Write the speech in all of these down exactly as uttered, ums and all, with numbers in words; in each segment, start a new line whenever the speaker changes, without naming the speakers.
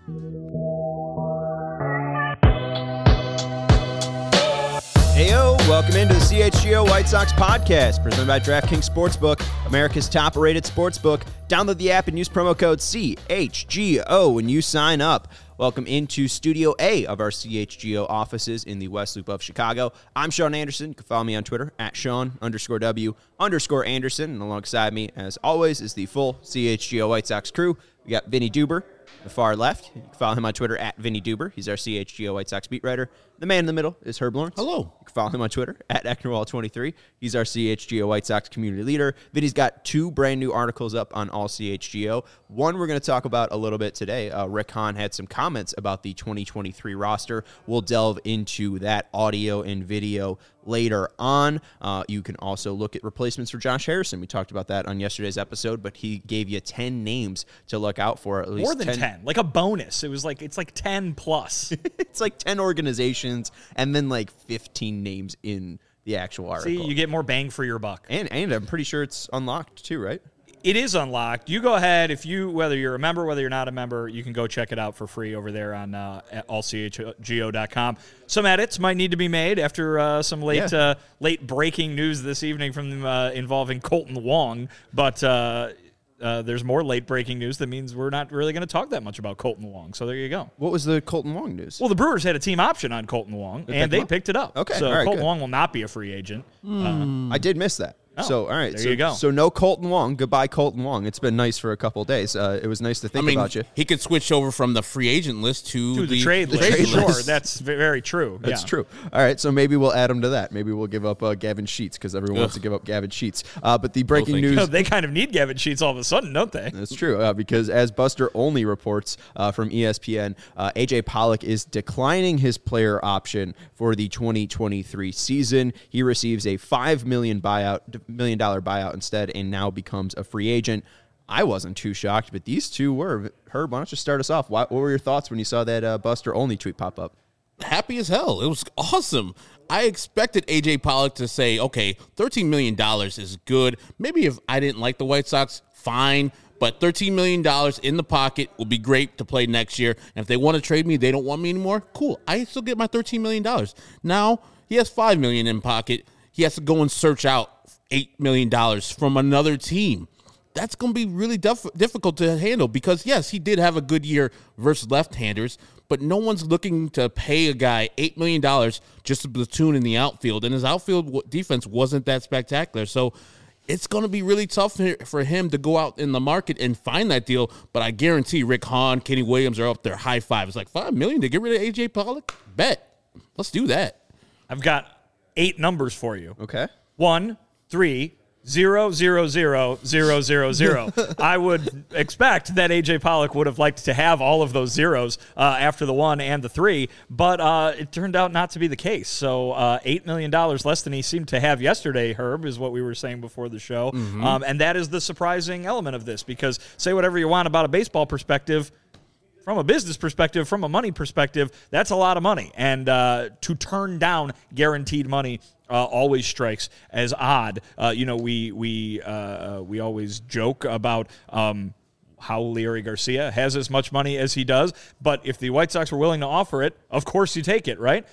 Heyo, welcome into the C H G O White Sox podcast, presented by DraftKings Sportsbook, America's top-rated sportsbook. Download the app and use promo code C H G O when you sign up. Welcome into Studio A of our C H G O offices in the West Loop of Chicago. I'm Sean Anderson. You can follow me on Twitter, at Sean underscore W underscore Anderson. And alongside me, as always, is the full C H G O White Sox crew. We got Vinny Duber, the far left. You can follow him on Twitter, at Vinny Duber. He's our C H G O White Sox beat writer. The man in the middle is Herb Lawrence.
Hello.
You can follow him on Twitter, at Ecknerwall twenty-three. He's our C H G O White Sox community leader. Vinny's got two brand new articles up on All C H G O. One we're going to talk about a little bit today. Uh, Rick Hahn had some comments about the twenty twenty-three roster. We'll delve into that audio and video later on. Uh, you can also look at replacements for Josh Harrison. We talked about that on yesterday's episode, but he gave you ten names to look out for. At least
more than ten. ten, like a bonus. It was like it's like ten plus.
It's like ten organizations and then like fifteen names in the actual article.
See, you get more bang for your buck.
And and I'm pretty sure it's unlocked too, right?
It is unlocked. You go ahead. If you, whether you're a member, whether you're not a member, you can go check it out for free over there on uh, at all c h g o dot com. Some edits might need to be made after uh, some late yeah. uh, late breaking news this evening from uh, involving Colton Wong, but uh, uh, there's more late breaking news that means we're not really going to talk that much about Colton Wong. So there you go.
What was the Colton Wong news?
Well, the Brewers had a team option on Colton Wong,
they
and they
up?
picked it up.
Okay,
so
all right,
Colton
good.
Wong will not be a free agent.
Mm. Uh, I did miss that.
Oh,
so, all right.
There
so,
you go.
So, no Colton Wong. Goodbye, Colton Wong. It's been nice for a couple of days. Uh, it was nice to think
I mean,
about you.
He could switch over from the free agent list to,
to the,
the
trade
the
list.
trade
Sure,
list.
that's very true.
That's
yeah.
true. All right, so maybe we'll add him to that. Maybe we'll give up uh, Gavin Sheets because everyone
Ugh.
wants to give up Gavin Sheets. Uh, but the breaking
thank
news...
you.
No, they kind of need Gavin Sheets all of a sudden, don't they?
That's true, uh, because as Buster Olney reports uh, from E S P N, uh, A J Pollock is declining his player option for the twenty twenty-three season. He receives a five million dollars buyout, million dollar buyout instead, and now becomes a free agent. I wasn't too shocked, but these two were. Herb, why don't you start us off? What, what were your thoughts when you saw that uh, Buster Olney tweet pop up?
Happy as hell. It was awesome. I expected A J Pollock to say, okay, thirteen million dollars is good. Maybe if I didn't like the White Sox, fine. But thirteen million dollars in the pocket will be great to play next year. And if they want to trade me, they don't want me anymore, cool. I still get my thirteen million dollars. Now, he has five million dollars in pocket. He has to go and search out eight million dollars from another team. That's going to be really dif- difficult to handle because, yes, he did have a good year versus left-handers, but no one's looking to pay a guy eight million dollars just to platoon in the outfield, and his outfield w- defense wasn't that spectacular. So it's going to be really tough for him to go out in the market and find that deal, but I guarantee Rick Hahn, Kenny Williams are up there high five. It's like five million dollars to get rid of A J Pollock? Bet. Let's do that.
I've got eight numbers for you.
Okay.
One, three, zero, zero, zero, zero, zero, zero. I would expect that A J Pollock would have liked to have all of those zeros uh, after the one and the three, but uh, it turned out not to be the case. So uh, eight million dollars less than he seemed to have yesterday, Herb, is what we were saying before the show. Mm-hmm. Um, and that is the surprising element of this, because say whatever you want about a baseball perspective, from a business perspective, from a money perspective, that's a lot of money. And uh, to turn down guaranteed money uh, always strikes as odd. Uh, you know, we we uh, we always joke about um, how Leury Garcia has as much money as he does. But if the White Sox were willing to offer it, of course you take it, right?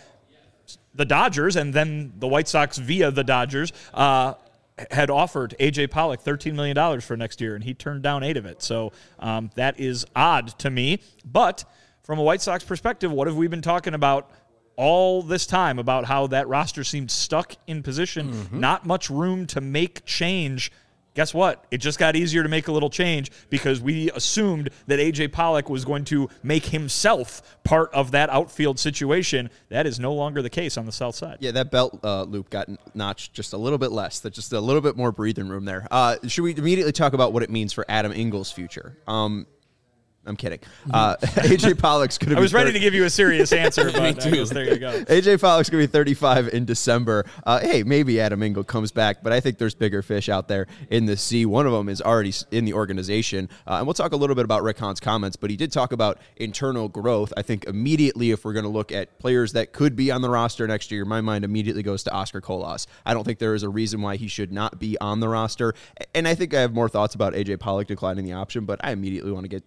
The Dodgers, and then the White Sox via the Dodgers, uh, had offered A J Pollock thirteen million dollars for next year, and he turned down eight of it. So um, that is odd to me. But from a White Sox perspective, what have we been talking about all this time about how that roster seemed stuck in position, mm-hmm. not much room to make change? Guess what? It just got easier to make a little change because we assumed that A J Pollock was going to make himself part of that outfield situation. That is no longer the case on the south side.
Yeah, that belt uh, loop got notched just a little bit less. That's just a little bit more breathing room there. Uh, should we immediately talk about what it means for Adam Engel's future? Um, I'm kidding. Uh, A J Pollock's going to be...
I was ready
thirty
to give you a serious answer, but I guess there you go.
A J Pollock's going to be thirty-five in December. Uh, hey, maybe Adam Engel comes back, but I think there's bigger fish out there in the sea. One of them is already in the organization. Uh, and we'll talk a little bit about Rick Hahn's comments, but he did talk about internal growth. I think immediately if we're going to look at players that could be on the roster next year, my mind immediately goes to Oscar Colas. I don't think there is a reason why he should not be on the roster. And I think I have more thoughts about A J Pollock declining the option, but I immediately want to get to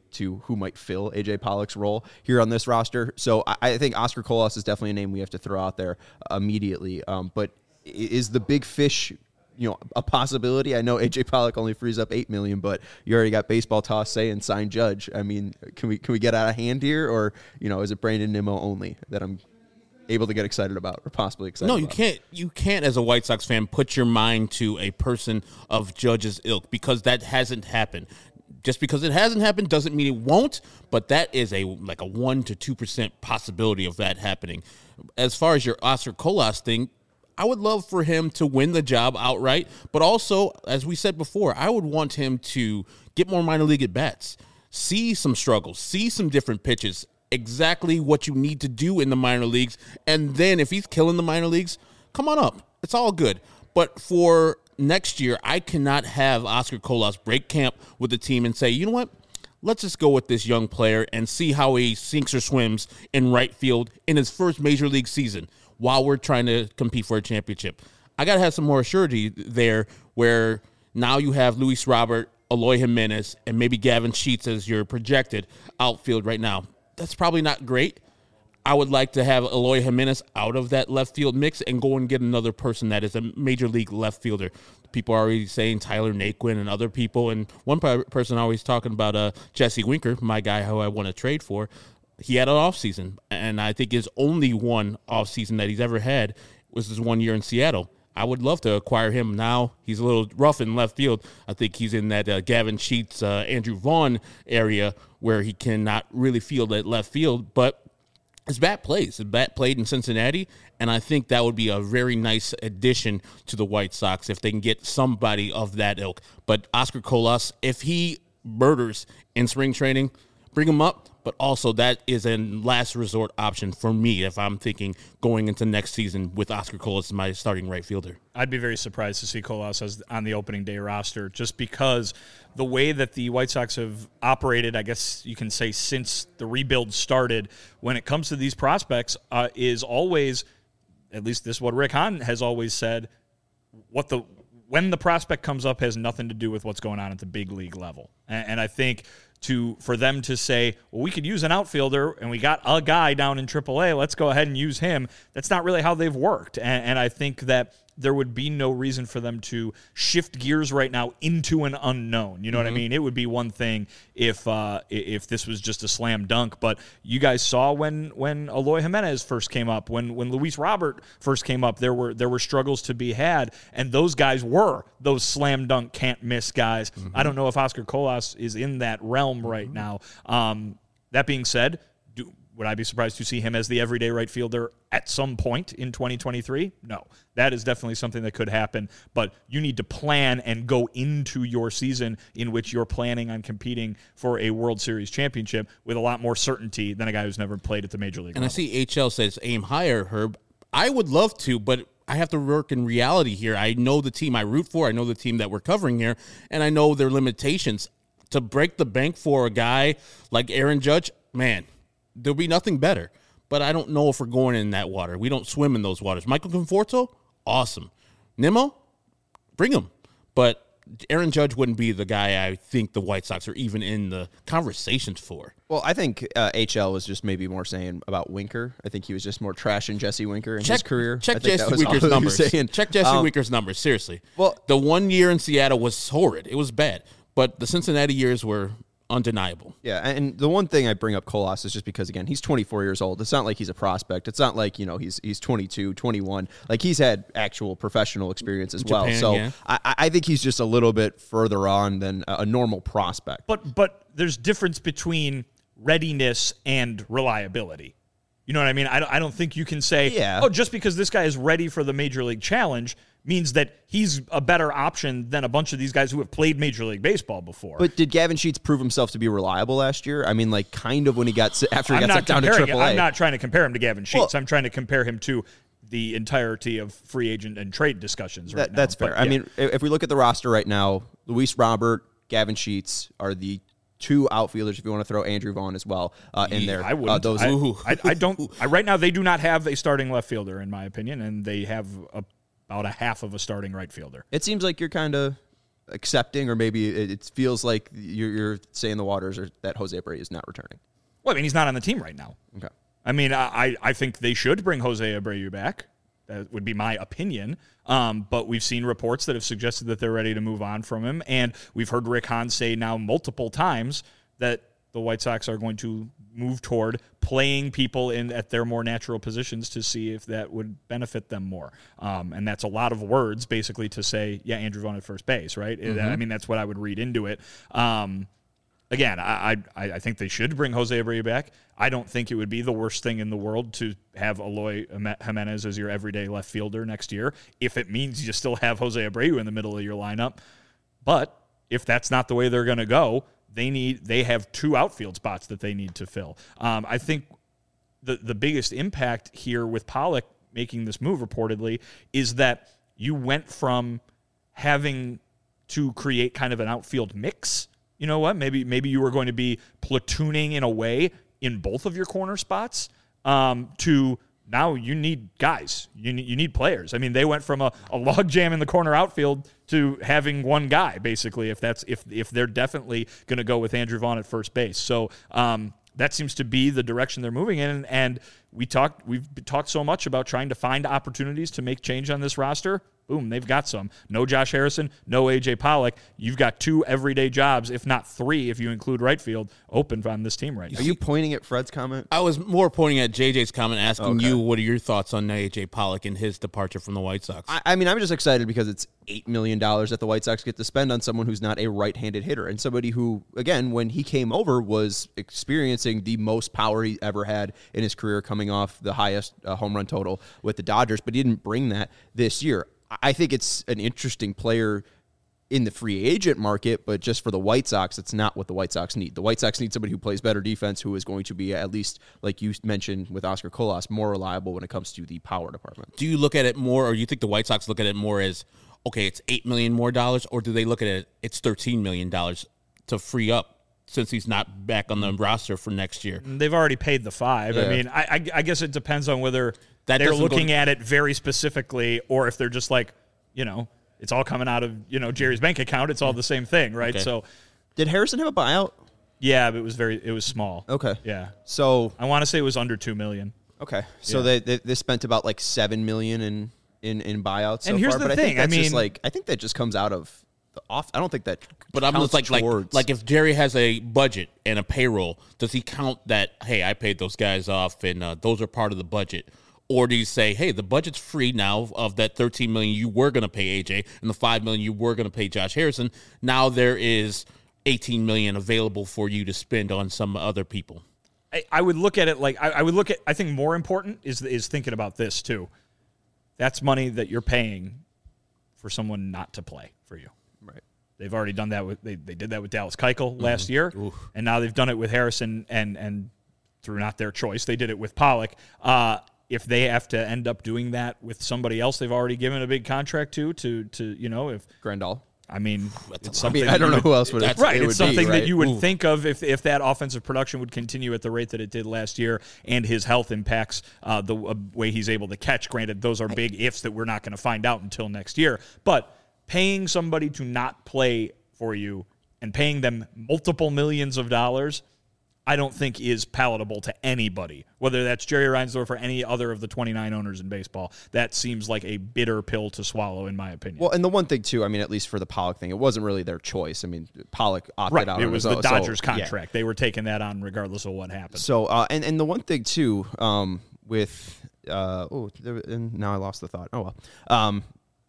who might fill A J Pollock's role here on this roster. So I, I think Oscar Colas is definitely a name we have to throw out there uh, immediately. Um, but is the big fish, you know, a possibility? I know A J Pollock only frees up eight million dollars, but you already got Baseball Toss saying sign Judge. I mean, can we can we get out of hand here, or you know, is it Brandon Nimmo only that I'm able to get excited about, or possibly excited
No,
about?
you can't. You can't, as a White Sox fan, put your mind to a person of Judge's ilk, because that hasn't happened. Just because it hasn't happened doesn't mean it won't, but that is a like a one to two percent possibility of that happening. As far as your Oscar Colas thing, I would love for him to win the job outright, but also, as we said before, I would want him to get more minor league at bats, see some struggles, see some different pitches, exactly what you need to do in the minor leagues, and then if he's killing the minor leagues, come on up. It's all good. But for next year, I cannot have Oscar Colas break camp with the team and say, you know what, let's just go with this young player and see how he sinks or swims in right field in his first major league season while we're trying to compete for a championship. I got to have some more surety there, where now you have Luis Robert, Eloy Jimenez, and maybe Gavin Sheets as your projected outfield right now. That's probably not great. I would like to have Eloy Jimenez out of that left field mix and go and get another person that is a major league left fielder. People are already saying Tyler Naquin and other people, and one person always talking about uh, Jesse Winker, my guy who I want to trade for. He had an offseason, and I think his only one offseason that he's ever had was his one year in Seattle. I would love to acquire him now. He's a little rough in left field. I think he's in that uh, Gavin Sheets, uh, Andrew Vaughn area where he cannot really field at left field, but his bat plays. His bat played in Cincinnati, and I think that would be a very nice addition to the White Sox if they can get somebody of that ilk. But Oscar Colas, if he murders in spring training, bring him up. But also that is a last resort option for me if I'm thinking going into next season with Oscar Colas as my starting right fielder.
I'd be very surprised to see Colas as on the opening day roster, just because the way that the White Sox have operated, I guess you can say, since the rebuild started, when it comes to these prospects, uh, is always, at least this is what Rick Hahn has always said, what the when the prospect comes up has nothing to do with what's going on at the big league level. And, and I think to for them to say, well, we could use an outfielder and we got a guy down in triple A, let's go ahead and use him. That's not really how they've worked. And, and I think that there would be no reason for them to shift gears right now into an unknown. You know mm-hmm. what I mean? It would be one thing if uh, if this was just a slam dunk. But you guys saw when when Eloy Jimenez first came up, when when Luis Robert first came up, there were there were struggles to be had, and those guys were those slam dunk can't miss guys. Mm-hmm. I don't know if Oscar Colas is in that realm mm-hmm. right now. Um, that being said, do, would I be surprised to see him as the everyday right fielder at some point in twenty twenty-three? No. That is definitely something that could happen, but you need to plan and go into your season in which you're planning on competing for a World Series championship with a lot more certainty than a guy who's never played at the major league
and
level.
I see H L says aim higher, Herb. I would love to, but I have to work in reality here. I know the team I root for. I know the team that we're covering here, and I know their limitations. To break the bank for a guy like Aaron Judge, man, there'll be nothing better. But I don't know if we're going in that water. We don't swim in those waters. Michael Conforto, awesome. Nimmo, bring him. But Aaron Judge wouldn't be the guy I think the White Sox are even in the conversations for.
Well, I think uh, H L was just maybe more saying about Winker. I think he was just more trashing Jesse Winker in
check,
his career.
Check
I think
Jesse Winker's numbers. Check Jesse
um,
Winker's numbers, seriously.
Well,
the one year in Seattle was horrid. It was bad. But the Cincinnati years were undeniable.
Yeah, and the one thing I bring up Colas is just because, again, he's twenty-four years old. It's not like he's a prospect. It's not like, you know, he's he's twenty-two, twenty-one. Like, he's had actual professional experience as
Japan,
well. So
yeah.
I, I think he's just a little bit further on than a normal prospect.
But but there's difference between readiness and reliability. You know what I mean? I don't, I don't think you can say,
yeah.
oh, just because this guy is ready for the Major League Challenge means that he's a better option than a bunch of these guys who have played Major League Baseball before.
But did Gavin Sheets prove himself to be reliable last year? I mean, like, kind of when he got after he
I'm
got sent down to triple A.
I'm not trying to compare him to Gavin Sheets.
Well,
I'm trying to compare him to the entirety of free agent and trade discussions right
that,
now.
That's fair.
But,
I
yeah.
mean, if we look at the roster right now, Luis Robert, Gavin Sheets are the two outfielders, if you want to throw Andrew Vaughn as well uh, in there.
I wouldn't.
Uh, those
I, I, I don't. I, right now, they do not have a starting left fielder, in my opinion, and they have a, about a half of a starting right fielder.
It seems like you're kind of accepting, or maybe it, it feels like you're, you're saying the waters are that Jose Abreu is not returning?
Well, I mean, he's not on the team right now.
Okay.
I mean, I, I think they should bring Jose Abreu back. That would be my opinion. Um, but we've seen reports that have suggested that they're ready to move on from him. And we've heard Rick Hahn say now multiple times that the White Sox are going to move toward playing people in at their more natural positions to see if that would benefit them more. Um, and that's a lot of words basically to say, yeah, Andrew Vaughn at first base, right? Mm-hmm. I mean, that's what I would read into it. Um, Again, I, I I think they should bring Jose Abreu back. I don't think it would be the worst thing in the world to have Eloy Jimenez as your everyday left fielder next year, if it means you still have Jose Abreu in the middle of your lineup. But if that's not the way they're going to go, they need they have two outfield spots that they need to fill. Um, I think the the biggest impact here with Pollock making this move reportedly is that you went from having to create kind of an outfield mix. You know what? Maybe maybe you were going to be platooning in a way in both of your corner spots um, to now you need guys. You need, you need players. I mean, they went from a, a log jam in the corner outfield to having one guy, basically, if that's if if they're definitely going to go with Andrew Vaughn at first base. So um, that seems to be the direction they're moving in. And we talked we've talked so much about trying to find opportunities to make change on this roster. Boom, they've got some. No Josh Harrison, no A J Pollock. You've got two everyday jobs, if not three, if you include right field, open on this team right now.
Are you pointing at Fred's comment?
I was more pointing at J J's comment, asking
Okay.
you what are your thoughts on A J Pollock and his departure from the White Sox.
I, I mean, I'm just excited because it's eight million dollars that the White Sox get to spend on someone who's not a right-handed hitter and somebody who, again, when he came over, was experiencing the most power he ever had in his career, coming off the highest uh, home run total with the Dodgers, but he didn't bring that this year. I think it's an interesting player in the free agent market, but just for the White Sox, it's not what the White Sox need. The White Sox need somebody who plays better defense, who is going to be, at least, like you mentioned with Oscar Colas, more reliable when it comes to the power department.
Do you look at it more, or you think the White Sox look at it more as, okay, it's eight million dollars more dollars, or do they look at it, it's thirteen million dollars to free up since he's not back on the roster for next year?
They've already paid the five.
Yeah.
I mean, I, I, I guess it depends on whether
That
they're
doesn't
looking
go-
at it very specifically or if they're just like, you know, it's all coming out of, you know, Jerry's bank account. It's all the same thing, right?
Okay.
So,
Did Harrison have a buyout?
yeah, but it was very, it was small.
Okay.
Yeah.
So
I want to say it was under two million.
okay, so
Yeah.
they, they they spent about like seven million in in in buyouts. So
And here's
far,
the
but
thing,
I
I
think that's just
mean-
like I think that just comes out of the off. I don't think that.
But I'm
counts
just like, like,
towards-
like if Jerry has a budget and a payroll, does he count that, hey, I paid those guys off and uh, those are part of the budget? Or do you say, hey, the budget's free now of that thirteen million dollars you were going to pay A J and the five million dollars you were going to pay Josh Harrison? Now there is eighteen million dollars available for you to spend on some other people.
I, I would look at it like I, I would look at. I think more important is is thinking about this too. That's money that you're paying for someone not to play for you.
right.
They've already done that with they, they did that with Dallas Keuchel last year, and now they've done it with Harrison and and through not their choice, they did it with Pollock. Uh, if they have to end up doing that with somebody else they've already given a big contract to, to to you know, if
Grandal.
I mean, it's
I
something
mean, I don't
you
know
would-
who else would.
that's-
Right,
it
it's
would
something
be, right?
that you would
Ooh.
think of if if that offensive production would continue at the rate that it did last year, and his health impacts uh, the uh, way he's able to catch. Granted, those are big ifs that we're not going to find out until next year. But paying somebody to not play for you and paying them multiple millions of dollars, I don't think is palatable to anybody, whether that's Jerry Reinsdorf or any other of the twenty-nine owners in baseball. That seems like a bitter pill to swallow, in my opinion.
Well, and the one thing too, I mean, at least for the Pollock thing, it wasn't really their choice. I mean, Pollock opted
right,
out.
it
on
was
his
the
own, so,
Dodgers
yeah.
contract. They were taking that on regardless of what happened.
So, uh, and and the one thing too, um, with uh, oh, there, and now I lost the thought. Oh well, um,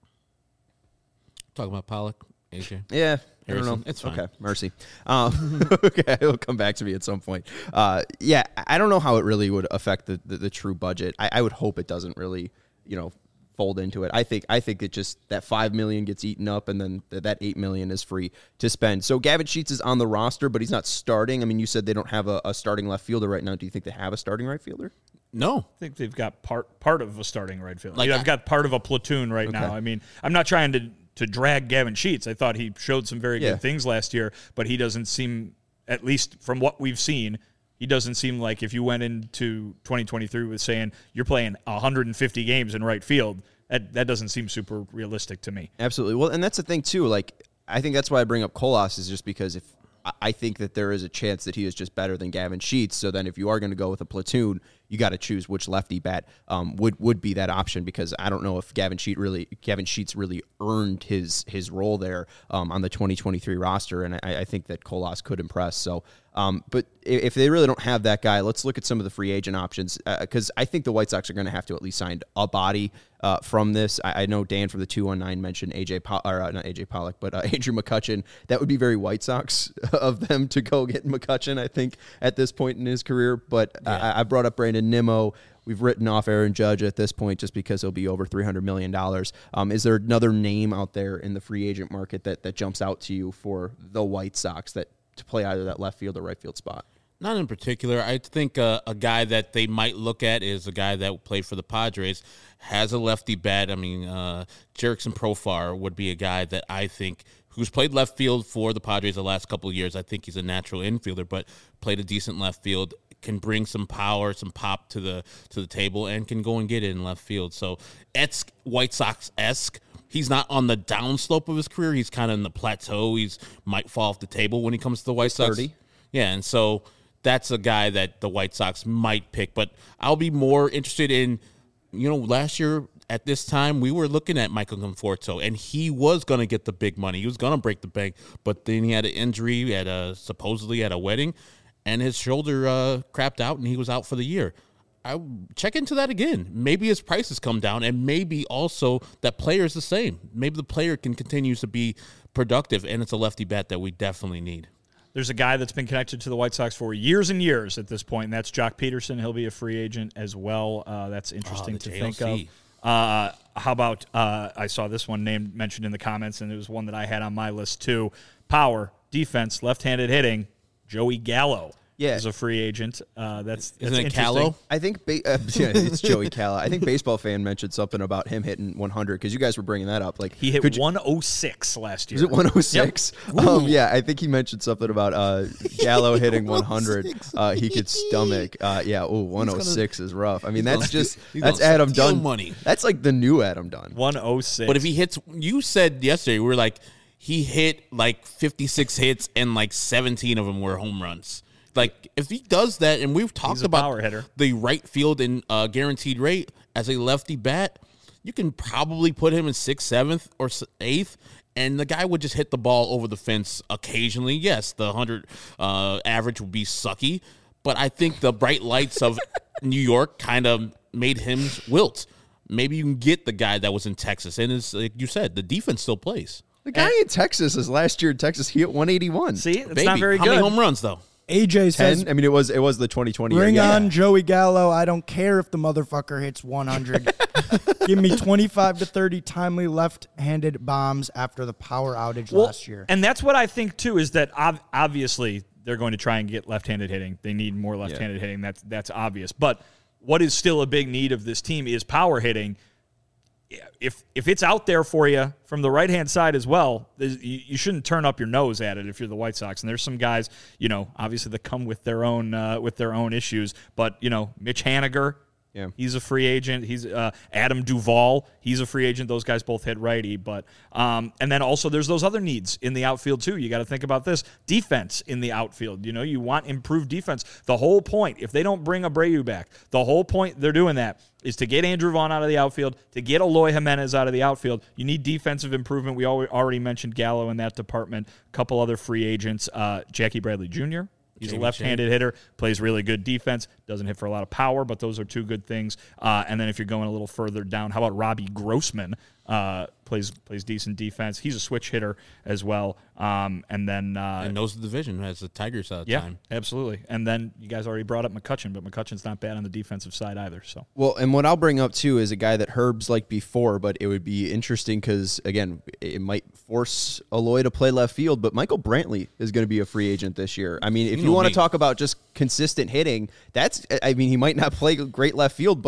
Talking about Pollock, A J.
yeah. I don't
Harrison,
know.
it's fine.
Okay, mercy. Um, okay, it'll come back to me at some point. Uh, yeah, I don't know how it really would affect the, the, the true budget. I, I would hope it doesn't really, you know, fold into it. I think I think it just that five million gets eaten up, and then th- that eight million is free to spend. So Gavin Sheets is on the roster, but he's not starting. I mean, you said they don't have a, a starting left fielder right now. Do you think they have a starting right fielder?
No.
I think they've got part part of a starting right field.
Like
Like I've
I-
got part of a platoon right now. I mean, I'm not trying to to drag Gavin Sheets. I thought he showed some very
Yeah.
good things last year, but he doesn't seem, at least from what we've seen, he doesn't seem like if you went into twenty twenty-three with saying you're playing one hundred fifty games in right field, that that doesn't seem super realistic to me.
Absolutely. Well, and that's the thing too. Like, I think that's why I bring up Colas is just because if I think that there is a chance that he is just better than Gavin Sheets. So then if you are going to go with a platoon, you got to choose which lefty bat um, would would be that option, because I don't know if Gavin Sheets really Gavin Sheets really earned his his role there um, on the twenty twenty-three roster, and I, I think that Colas could impress. So, um, but if they really don't have that guy, let's look at some of the free agent options, because uh, I think the White Sox are going to have to at least sign a body uh, from this. I, I know Dan from the two one nine mentioned A J po- or uh, not A J Pollock, but uh, Andrew McCutchen. That would be very White Sox of them to go get McCutchen, I think, at this point in his career. But yeah. I, I brought up Brandon Nimmo. We've written off Aaron Judge at this point just because he'll be over three hundred million dollars. Um, is there another name out there in the free agent market that, that jumps out to you for the White Sox that to play either that left field or right field spot?
Not in particular. I think uh, a guy that they might look at is a guy that played for the Padres, has a lefty bat. I mean, uh, Jerickson Profar would be a guy that I think who's played left field for the Padres the last couple of years. I think he's a natural infielder, but played a decent left field, can bring some power, some pop to the to the table, and can go and get it in left field. So it's White Sox-esque. He's not on the downslope of his career. He's kind of in the plateau. He's might fall off the table when he comes to the White Sox.
thirty.
Yeah, and so that's a guy that the White Sox might pick. But I'll be more interested in, you know, last year at this time, we were looking at Michael Conforto, and he was going to get the big money. He was going to break the bank, but then he had an injury at a supposedly at a wedding, and his shoulder uh, crapped out, and he was out for the year. I check into that again. Maybe his prices come down, and maybe also that player is the same. Maybe the player can continue to be productive, and it's a lefty bat that we definitely need.
There's a guy that's been connected to the White Sox for years and years at this point, and that's Jock Peterson. He'll be a free agent as well. Uh, that's interesting
oh,
to
J L C.
think of. Uh, how about, uh, I saw this one named mentioned in the comments, and it was one that I had on my list too. Power, defense, left-handed hitting, Joey Gallo.
Yeah.
Is a free agent. Uh, that's, that's
Isn't it
interesting.
Callow?
I think ba- uh, yeah, it's Joey Calla. I think Baseball Fan mentioned something about him hitting one hundred because you guys were bringing that up. Like
he hit
you,
one oh six last year.
Was it one oh six? Yep. Um, yeah, I think he mentioned something about uh, Gallo hitting one hundred. Uh, he could stomach. Uh, yeah, oh, one oh six is rough. I mean, that's just that's Adam Dunn
money.
That's like the new Adam Dunn.
one oh six.
But if he hits, you said yesterday we were like he hit like fifty-six hits and like seventeen of them were home runs. Like, if he does that, and we've talked about the right field and uh, guaranteed rate as a lefty bat, you can probably put him in sixth, seventh, or eighth, and the guy would just hit the ball over the fence occasionally. Yes, the one hundred uh, average would be sucky, but I think the bright lights of New York kind of made him wilt. Maybe you can get the guy that was in Texas, and it's, like you said, the defense still plays.
The guy and, in Texas is last year in Texas, he hit one eighty-one.
See, it's
Baby,
not very
how
good.
How many home runs, though?
A J says,
ten? I mean, it was it was the twenty twenty
bring
year.
on
Yeah.
Joey Gallo. I don't care if the motherfucker hits one hundred. Give me twenty-five to thirty timely left-handed bombs after the power outage
well,
last year.
And that's what I think, too, is that ob- obviously they're going to try and get left-handed hitting. They need more left-handed yeah. hitting. That's, that's obvious. But what is still a big need of this team is power hitting. If if it's out there for you from the right-hand side as well, you, you shouldn't turn up your nose at it if you're the White Sox. And there's some guys, you know, obviously that come with their own uh, with their own issues. But, you know, Mitch Haniger, yeah. he's a free agent. He's uh, Adam Duvall, he's a free agent. Those guys both hit righty. But um, and then also there's those other needs in the outfield too. You got to think about this. Defense in the outfield. You know, you want improved defense. The whole point, if they don't bring Abreu back, the whole point they're doing that is to get Andrew Vaughn out of the outfield, to get Eloy Jimenez out of the outfield. You need defensive improvement. We already mentioned Gallo in that department. A couple other free agents. Uh, Jackie Bradley Junior He's Jamie a left-handed Shane. hitter, plays really good defense, doesn't hit for a lot of power, but those are two good things. Uh, and then if you're going a little further down, how about Robbie Grossman? Uh, plays plays decent defense. He's a switch hitter as well. Um, and then uh,
and knows the division as the Tigers out of
yeah,
time.
Absolutely. And then you guys already brought up McCutchen, but McCutchen's not bad on the defensive side either. So
well, and what I'll bring up too is a guy that Herb's liked before, but it would be interesting because again, it might force Eloy to play left field. But Michael Brantley is going to be a free agent this year. I mean, if you, you want to talk about just consistent hitting, that's I mean, he might not play great left field, but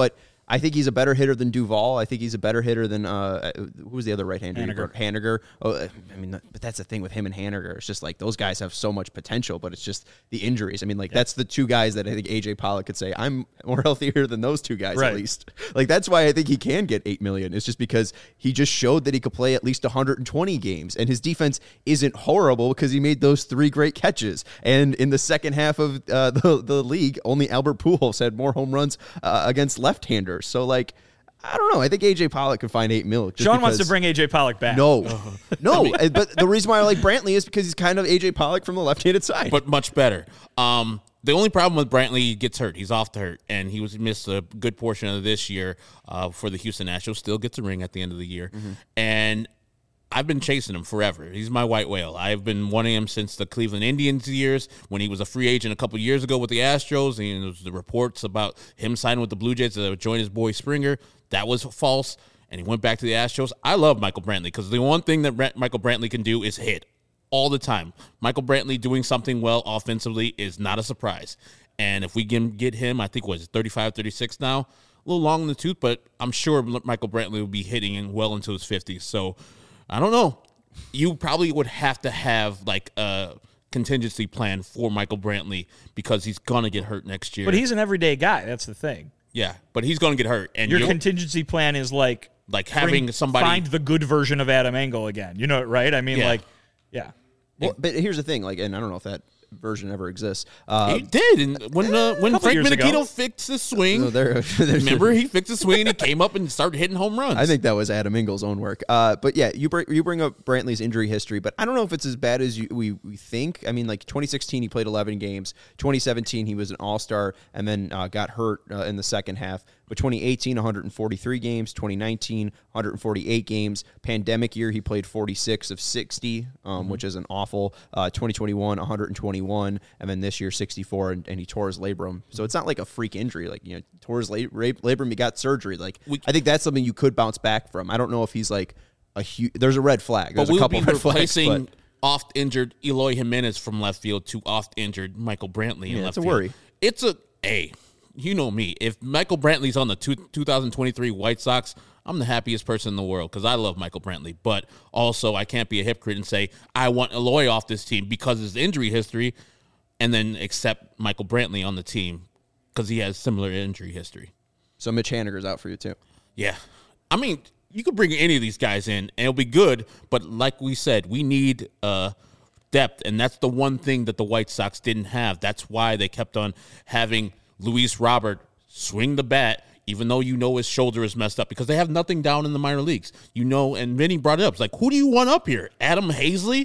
I think he's a better hitter than Duvall. I think he's a better hitter than uh, who was the other right-hander?
Haniger.
Haniger. Oh, I mean, but that's the thing with him and Haniger. It's just like those guys have so much potential, but it's just the injuries. I mean, like yeah. that's the two guys that I think A J Pollock could say I'm more healthier than those two guys
right.
at least. Like that's why I think he can get eight million. It's just because he just showed that he could play at least one hundred twenty games, and his defense isn't horrible because he made those three great catches. And in the second half of uh, the the league, only Albert Pujols had more home runs uh, against left-handers. So like. I don't know. I think A J Pollock could find eight mil.
Sean because, wants to bring A J Pollock back.
No, no. I mean, but the reason why I like Brantley is because he's kind of A J Pollock from the left-handed side,
but much better. Um, the only problem with Brantley, he gets hurt. He's off the hurt, and he was missed a good portion of this year uh, for the Houston Astros. Still gets a ring at the end of the year, mm-hmm. and I've been chasing him forever. He's my white whale. I've been wanting him since the Cleveland Indians years when he was a free agent a couple years ago with the Astros, and there was the reports about him signing with the Blue Jays to join his boy Springer. That was false, and he went back to the Astros. I love Michael Brantley because the one thing that Brent, Michael Brantley can do is hit all the time. Michael Brantley doing something well offensively is not a surprise. And if we can get him, I think, what is it, thirty-five, thirty-six now? A little long in the tooth, but I'm sure Michael Brantley will be hitting well into his fifties. So, I don't know. You probably would have to have, like, a contingency plan for Michael Brantley because he's going to get hurt next year.
But he's an everyday guy. That's the thing.
Yeah, but he's going to get hurt. And
your contingency plan is like
like having
bring,
somebody
find the good version of Adam Engel again. You know, right? I mean,
yeah.
like, yeah.
Well, but here's the thing, like, and I don't know if that version ever exists. Uh,
he did, and when uh, when Frank Menachito fixed his swing,
no, there,
remember he fixed his swing and he came up and started hitting home runs.
I think that was Adam Engel's own work. Uh, but yeah, you bring you bring up Brantley's injury history, but I don't know if it's as bad as you, we we think. I mean, like twenty sixteen, he played eleven games. twenty seventeen, he was an All-Star and then uh, got hurt uh, in the second half. But twenty eighteen, one hundred forty-three games. twenty nineteen, one hundred forty-eight games. Pandemic year, he played forty-six of sixty, um, mm-hmm. which is an awful. Uh, twenty twenty-one, one hundred twenty-one, and then this year sixty-four, and, and he tore his labrum. So it's not like a freak injury. Like, you know, tore his lab- labrum, he got surgery. Like, we, I think that's something you could bounce back from. I don't know if he's like a huge. There's a red flag. There's
but we'll
a couple
be
red
replacing
flags. But
oft injured Eloy Jimenez from left field to oft injured Michael Brantley in
yeah,
left
it's a
field.
worry.
It's a a. You know me. If Michael Brantley's on the two, twenty twenty-three White Sox, I'm the happiest person in the world because I love Michael Brantley. But also, I can't be a hypocrite and say I want Eloy off this team because of his injury history and then accept Michael Brantley on the team because he has similar injury history.
So Mitch Haniger's out for you, too.
Yeah. I mean, you could bring any of these guys in, and it'll be good. But like we said, we need uh, depth, and that's the one thing that the White Sox didn't have. That's why they kept on having Luis Robert swing the bat, even though you know his shoulder is messed up, because they have nothing down in the minor leagues. You know, and Vinny brought it up. It's like, who do you want up here? Adam Hazley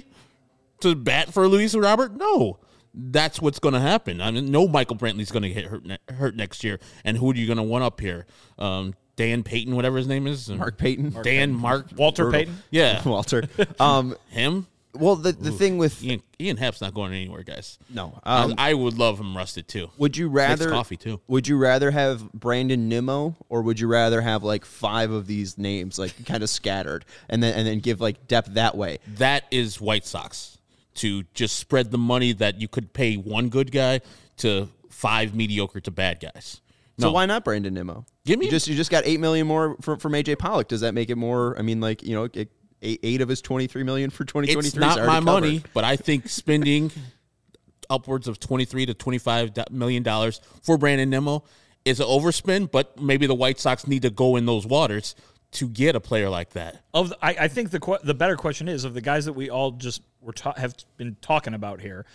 to bat for Luis Robert? No. That's what's going to happen. I mean, no Michael Brantley's going to get hurt, ne- hurt next year. And who are you going to want up here? Um, Dan Payton, whatever his name is.
Mark Payton.
Dan Payton. Mark.
Walter
Brutal.
Payton?
Yeah.
Walter. Um,
Him?
Well, the the
Ooh.
thing with
Ian, Ian Happ's not going anywhere, guys.
No. Um,
I, I would love him rusted, too.
Would you
Makes
rather
coffee, too.
Would you rather have Brandon Nimmo, or would you rather have like five of these names like kind of scattered and then and then give like depth that way?
That is White Sox, to just spread the money that you could pay one good guy to five mediocre to bad guys.
So
No.
why not Brandon Nimmo?
Give me
you just you just got eight million more from, from A J Pollock. Does that make it more? I mean, like, you know, it, eight, eight of his twenty-three million for twenty twenty-three.
It's not
is
my
already
money,
covered.
but I think spending upwards of twenty-three to twenty-five million dollars for Brandon Nimmo is an overspend, but maybe the White Sox need to go in those waters to get a player like that.
Of the, I, I think the que- the better question is, of the guys that we all just were ta- have been talking about here,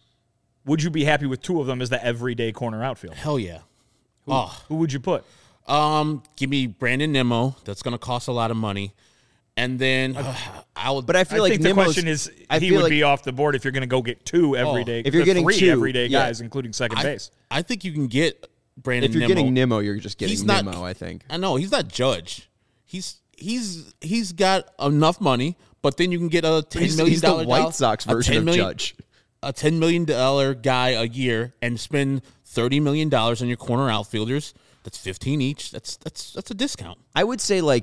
would you be happy with two of them as the everyday corner outfield?
Hell yeah.
Who,
Oh.
who would you put?
Um, give me Brandon Nimmo. That's going to cost a lot of money. And then uh, I would.
But I feel
I
like
think the
Nimmo's,
question is,
I
he
feel
would
like,
be off the board if you're going to go get two everyday.
If you're
uh,
getting
three
two,
everyday
yeah.
guys, including second
I,
base.
I think you can get Brandon
if you're
Nimmo.
getting Nimmo, you're just getting
He's not-
Nimmo. I think.
I know he's not Judge. He's he's he's got enough money, but then you can get a ten
He's,
million
he's the
dollar
White
dollar-
Sox
a
version
ten
of
million
Judge.
a ten million dollar guy a year and spend thirty million dollars on your corner outfielders. That's fifteen each. That's that's that's a discount.
I would say like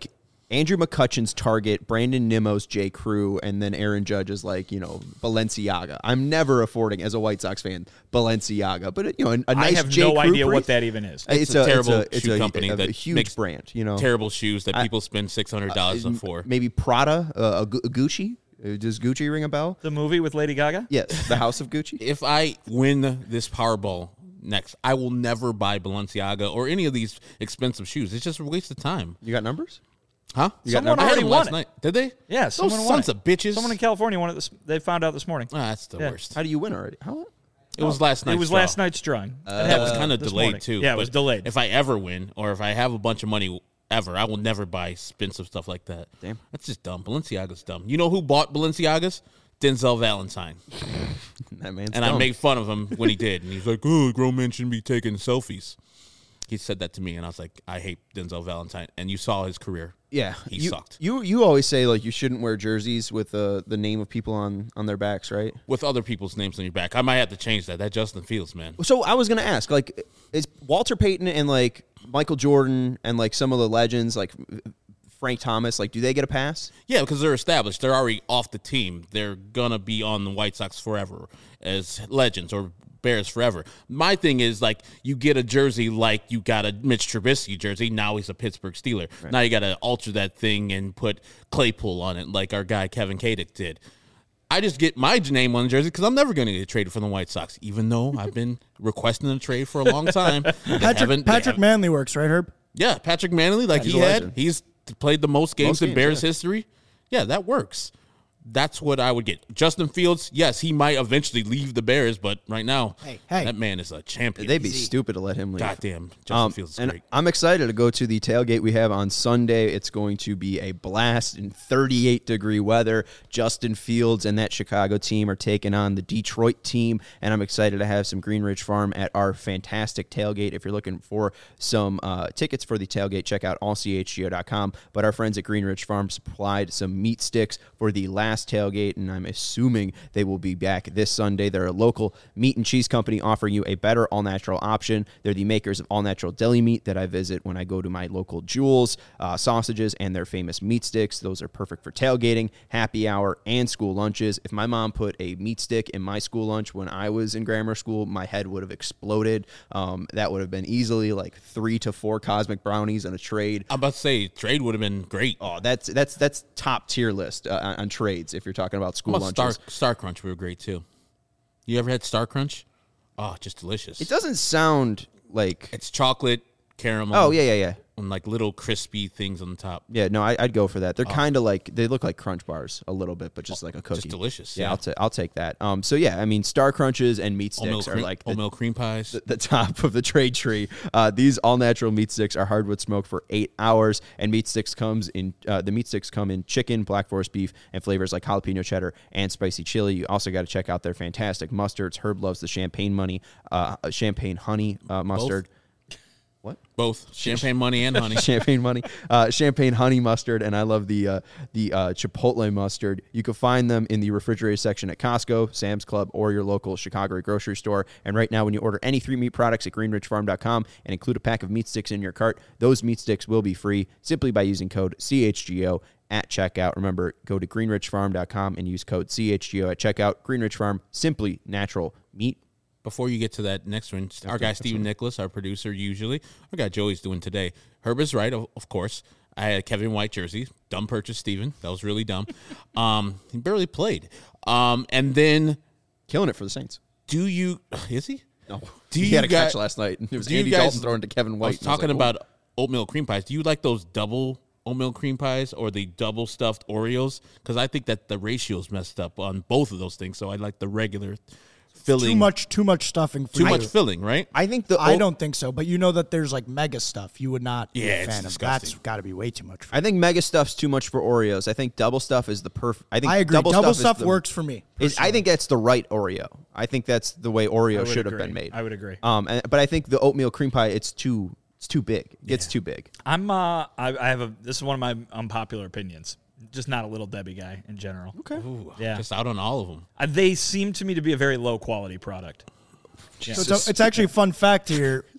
Andrew McCutcheon's Target, Brandon Nimmo's J. Crew, and then Aaron Judge is like, you know, Balenciaga. I'm never affording, as a White Sox fan, Balenciaga. But, you know, a, a nice
I have
J.
no
Crew
idea
brief,
what that even is.
It's,
It's
a,
a terrible
it's a, it's
shoe
a,
company
a, a
that
huge
makes
brand, you know.
Terrible shoes that people spend six hundred dollars on for.
Maybe Prada, uh, a, Gu- a Gucci. Uh, Does Gucci ring a bell?
The movie with Lady Gaga?
Yes, the House of Gucci.
If I win this Powerball next, I will never buy Balenciaga or any of these expensive shoes. It's just a waste of time.
You got numbers?
Huh?
You got
Someone
numbers?
I had
already
them
won
last
it.
night. Did they?
Yeah,
Those
someone won
sons
it.
of bitches.
Someone in California won it. This, they found out this morning.
Ah, that's the
Yeah.
worst.
How do you win already? How?
It was last night.
It was last night's drawing.
That was kind of
this
delayed
morning.
too.
Yeah, it was
but
delayed.
If I ever win, or if I have a bunch of money ever, I will never buy expensive stuff like that.
Damn.
That's just dumb. Balenciaga's dumb. You know who bought Balenciagas? Denzel Valentine.
That man's
And
dumb.
I made fun of him when he did. And he's like, oh, grown men shouldn't be taking selfies. He said that to me, and I was like, I hate Denzel Valentine. And you saw his career.
Yeah,
He
you,
sucked.
You you always say like you shouldn't wear jerseys with uh, the name of people on, on their backs, right?
With other people's names on your back. I might have to change that. That Justin Fields, man.
So I was gonna ask, like, is Walter Payton and like Michael Jordan and like some of the legends, like Frank Thomas, like, do they get a pass?
Yeah, because they're established. They're already off the team. They're going to be on the White Sox forever as legends or Bears forever. My thing is, like, you get a jersey like you got a Mitch Trubisky jersey. Now he's a Pittsburgh Steeler. Right. Now you got to alter that thing and put Claypool on it like our guy Kevin Kadick did. I just get my name on the jersey because I'm never going to get traded from the White Sox, even though I've been requesting a trade for a long time.
Patrick, Patrick Manley works, right, Herb?
Yeah, Patrick Manley, like
He's
he
a
had,
legend.
he's played the most games
Most
in
games,
Bears
yeah.
history. Yeah, that works. That's what I would get. Justin Fields, yes, he might eventually leave the Bears, but right now,
Hey, hey.
that man is a champion.
They'd be stupid to let him leave.
Goddamn, Justin
Um,
Fields is
and
great.
I'm excited to go to the tailgate we have on Sunday. It's going to be a blast in thirty-eight degree weather. Justin Fields and that Chicago team are taking on the Detroit team, and I'm excited to have some Green Ridge Farm at our fantastic tailgate. If you're looking for some uh, tickets for the tailgate, check out all c h g o dot com. But our friends at Green Ridge Farm supplied some meat sticks for the last tailgate, and I'm assuming they will be back this Sunday. They're a local meat and cheese company offering you a better all-natural option. They're the makers of all-natural deli meat that I visit when I go to my local Jewels, uh, sausages, and their famous meat sticks. Those are perfect for tailgating, happy hour, and school lunches. If my mom put a meat stick in my school lunch when I was in grammar school, my head would have exploded. Um, that would have been easily like three to four Cosmic Brownies on a trade.
I'm about to say, trade would have been great.
Oh, that's that's that's top tier list uh, on, on trades if you're talking about school
How about
lunches.
Star, Star Crunch were great, too. You ever had Star Crunch? Oh, just delicious.
It doesn't sound like.
It's chocolate, caramel.
Oh yeah, yeah, yeah.
And like little crispy things on the top.
Yeah, no, I, I'd go for that.
Oh.
They're kind of like they look like Crunch bars a little bit, but just like a cookie.
Just delicious.
Yeah,
Yeah.
I'll, ta- I'll take that. Um, so yeah, I mean, Star Crunches and meat
Oatmeal
sticks are
cream,
like the,
oatmeal cream pies.
the, the top of the trade tree. Uh, these all natural meat sticks are hardwood smoked for eight hours, and meat sticks comes in. Uh, the meat sticks come in chicken, black forest beef, and flavors like jalapeno cheddar and spicy chili. You also got to check out their fantastic mustards. Herb loves the champagne money, uh, champagne honey uh, mustard. What?
Both champagne money and honey.
Champagne money, uh, champagne honey mustard, and I love the uh, the uh, chipotle mustard. You can find them in the refrigerator section at Costco, Sam's Club, or your local Chicago grocery store. And right now, when you order any three meat products at green ridge farm dot com and include a pack of meat sticks in your cart, those meat sticks will be free simply by using code C H G O at checkout. Remember, go to green ridge farm dot com and use code C H G O at checkout. Green Ridge Farm, simply natural meat.
Before you get to that next one, our guy Steven Nicholas, our producer, usually, our guy Joey's doing today. Herb is right, of, of course. I had a Kevin White jersey. Dumb purchase, Steven. That was really dumb. Um, he barely played. Um, and then,
Killing it for the Saints.
do you, is he?
No.
Do
he
you
had a
guys-
catch last night. It was
do you
Andy
guys-
Dalton throwing to Kevin White.
I was
and I was
talking
like,
about oatmeal cream pies. Do you like those double oatmeal cream pies or the double stuffed Oreos? Because I think that the ratio's messed up on both of those things. So I like the regular filling.
Too much, too much stuffing. For
Too
you.
much filling, right?
I think the
I
oat-
don't think so, but you know that there's like mega stuff. You would not be
Yeah,
a
it's
fan of.
disgusting.
That's got to be way too much. For
I think mega stuff's too much for Oreos. I think double stuff is the perfect. I think
I agree.
Double,
Double,
stuff,
stuff
is the-
works for me.
is- I think that's the right Oreo. I think that's the way Oreo
would
should have
agree.
been made.
I would agree.
Um, and, but I think the oatmeal cream pie, it's too, it's too big. It gets too big.
I'm. Uh, I, I have a. This is one of my unpopular opinions. Just not a Little Debbie guy in general.
Okay.
Ooh,
Yeah.
Just out on all of them.
Uh, they seem to me to be a very low quality product.
So it's, a- it's actually a fun fact here.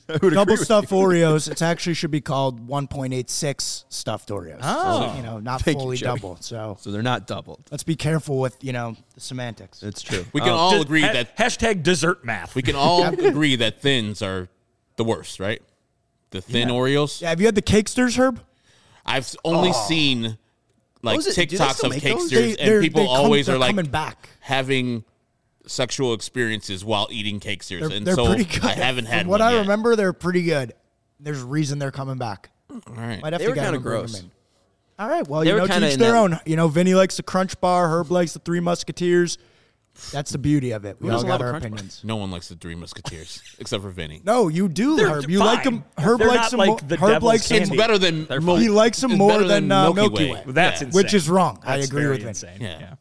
double stuffed Oreos. It actually should be called one point eight six stuffed Oreos.
Oh.
So, you know, not
Thank you,
fully
Joey.
double. So
So they're not doubled.
let's be careful with, you know, the semantics.
It's true.
We can
Um,
all
Just
agree
ha-
that
hashtag dessert math.
we can all agree that thins are the worst, right? The thin Oreos.
Yeah, have you had the Cakesters, Herb?
I've only seen like
Those are- do they
TikToks
still
of
make those?
Cakesters,
They- they're-
and people
they come-
always
they're
are like
coming back.
having sexual experiences while eating Cakesters,
They're,
and
they're
so
pretty good.
I haven't had
From what
one
I
yet.
remember, they're pretty good. There's a reason they're coming back.
All right.
Might have
They
to
were
get
kinda
them and bring
gross.
them in. All right, well,
They
you
were
know,
kinda
teach
in
their
that-
own. You know, Vinny likes the Crunch Bar. Herb likes the Three Musketeers. That's the beauty of it. We
Who
all
doesn't
got
love a
our
Crunch Bar?
opinions.
No one likes the Three Musketeers except for Vinny.
No, you do,
They're
Herb. You like
fine.
them. Herb
They're
likes
not
them.
like
mo-
the
Herb
devil's
likes them.
It's
candy.
better than
They're
Mil-
fine.
He likes them
it's
more
better
than, uh, Milky Way.
That's
Yeah.
insane.
Which is wrong. I
That's
agree
very
with Vin.
insane.
Yeah.
yeah.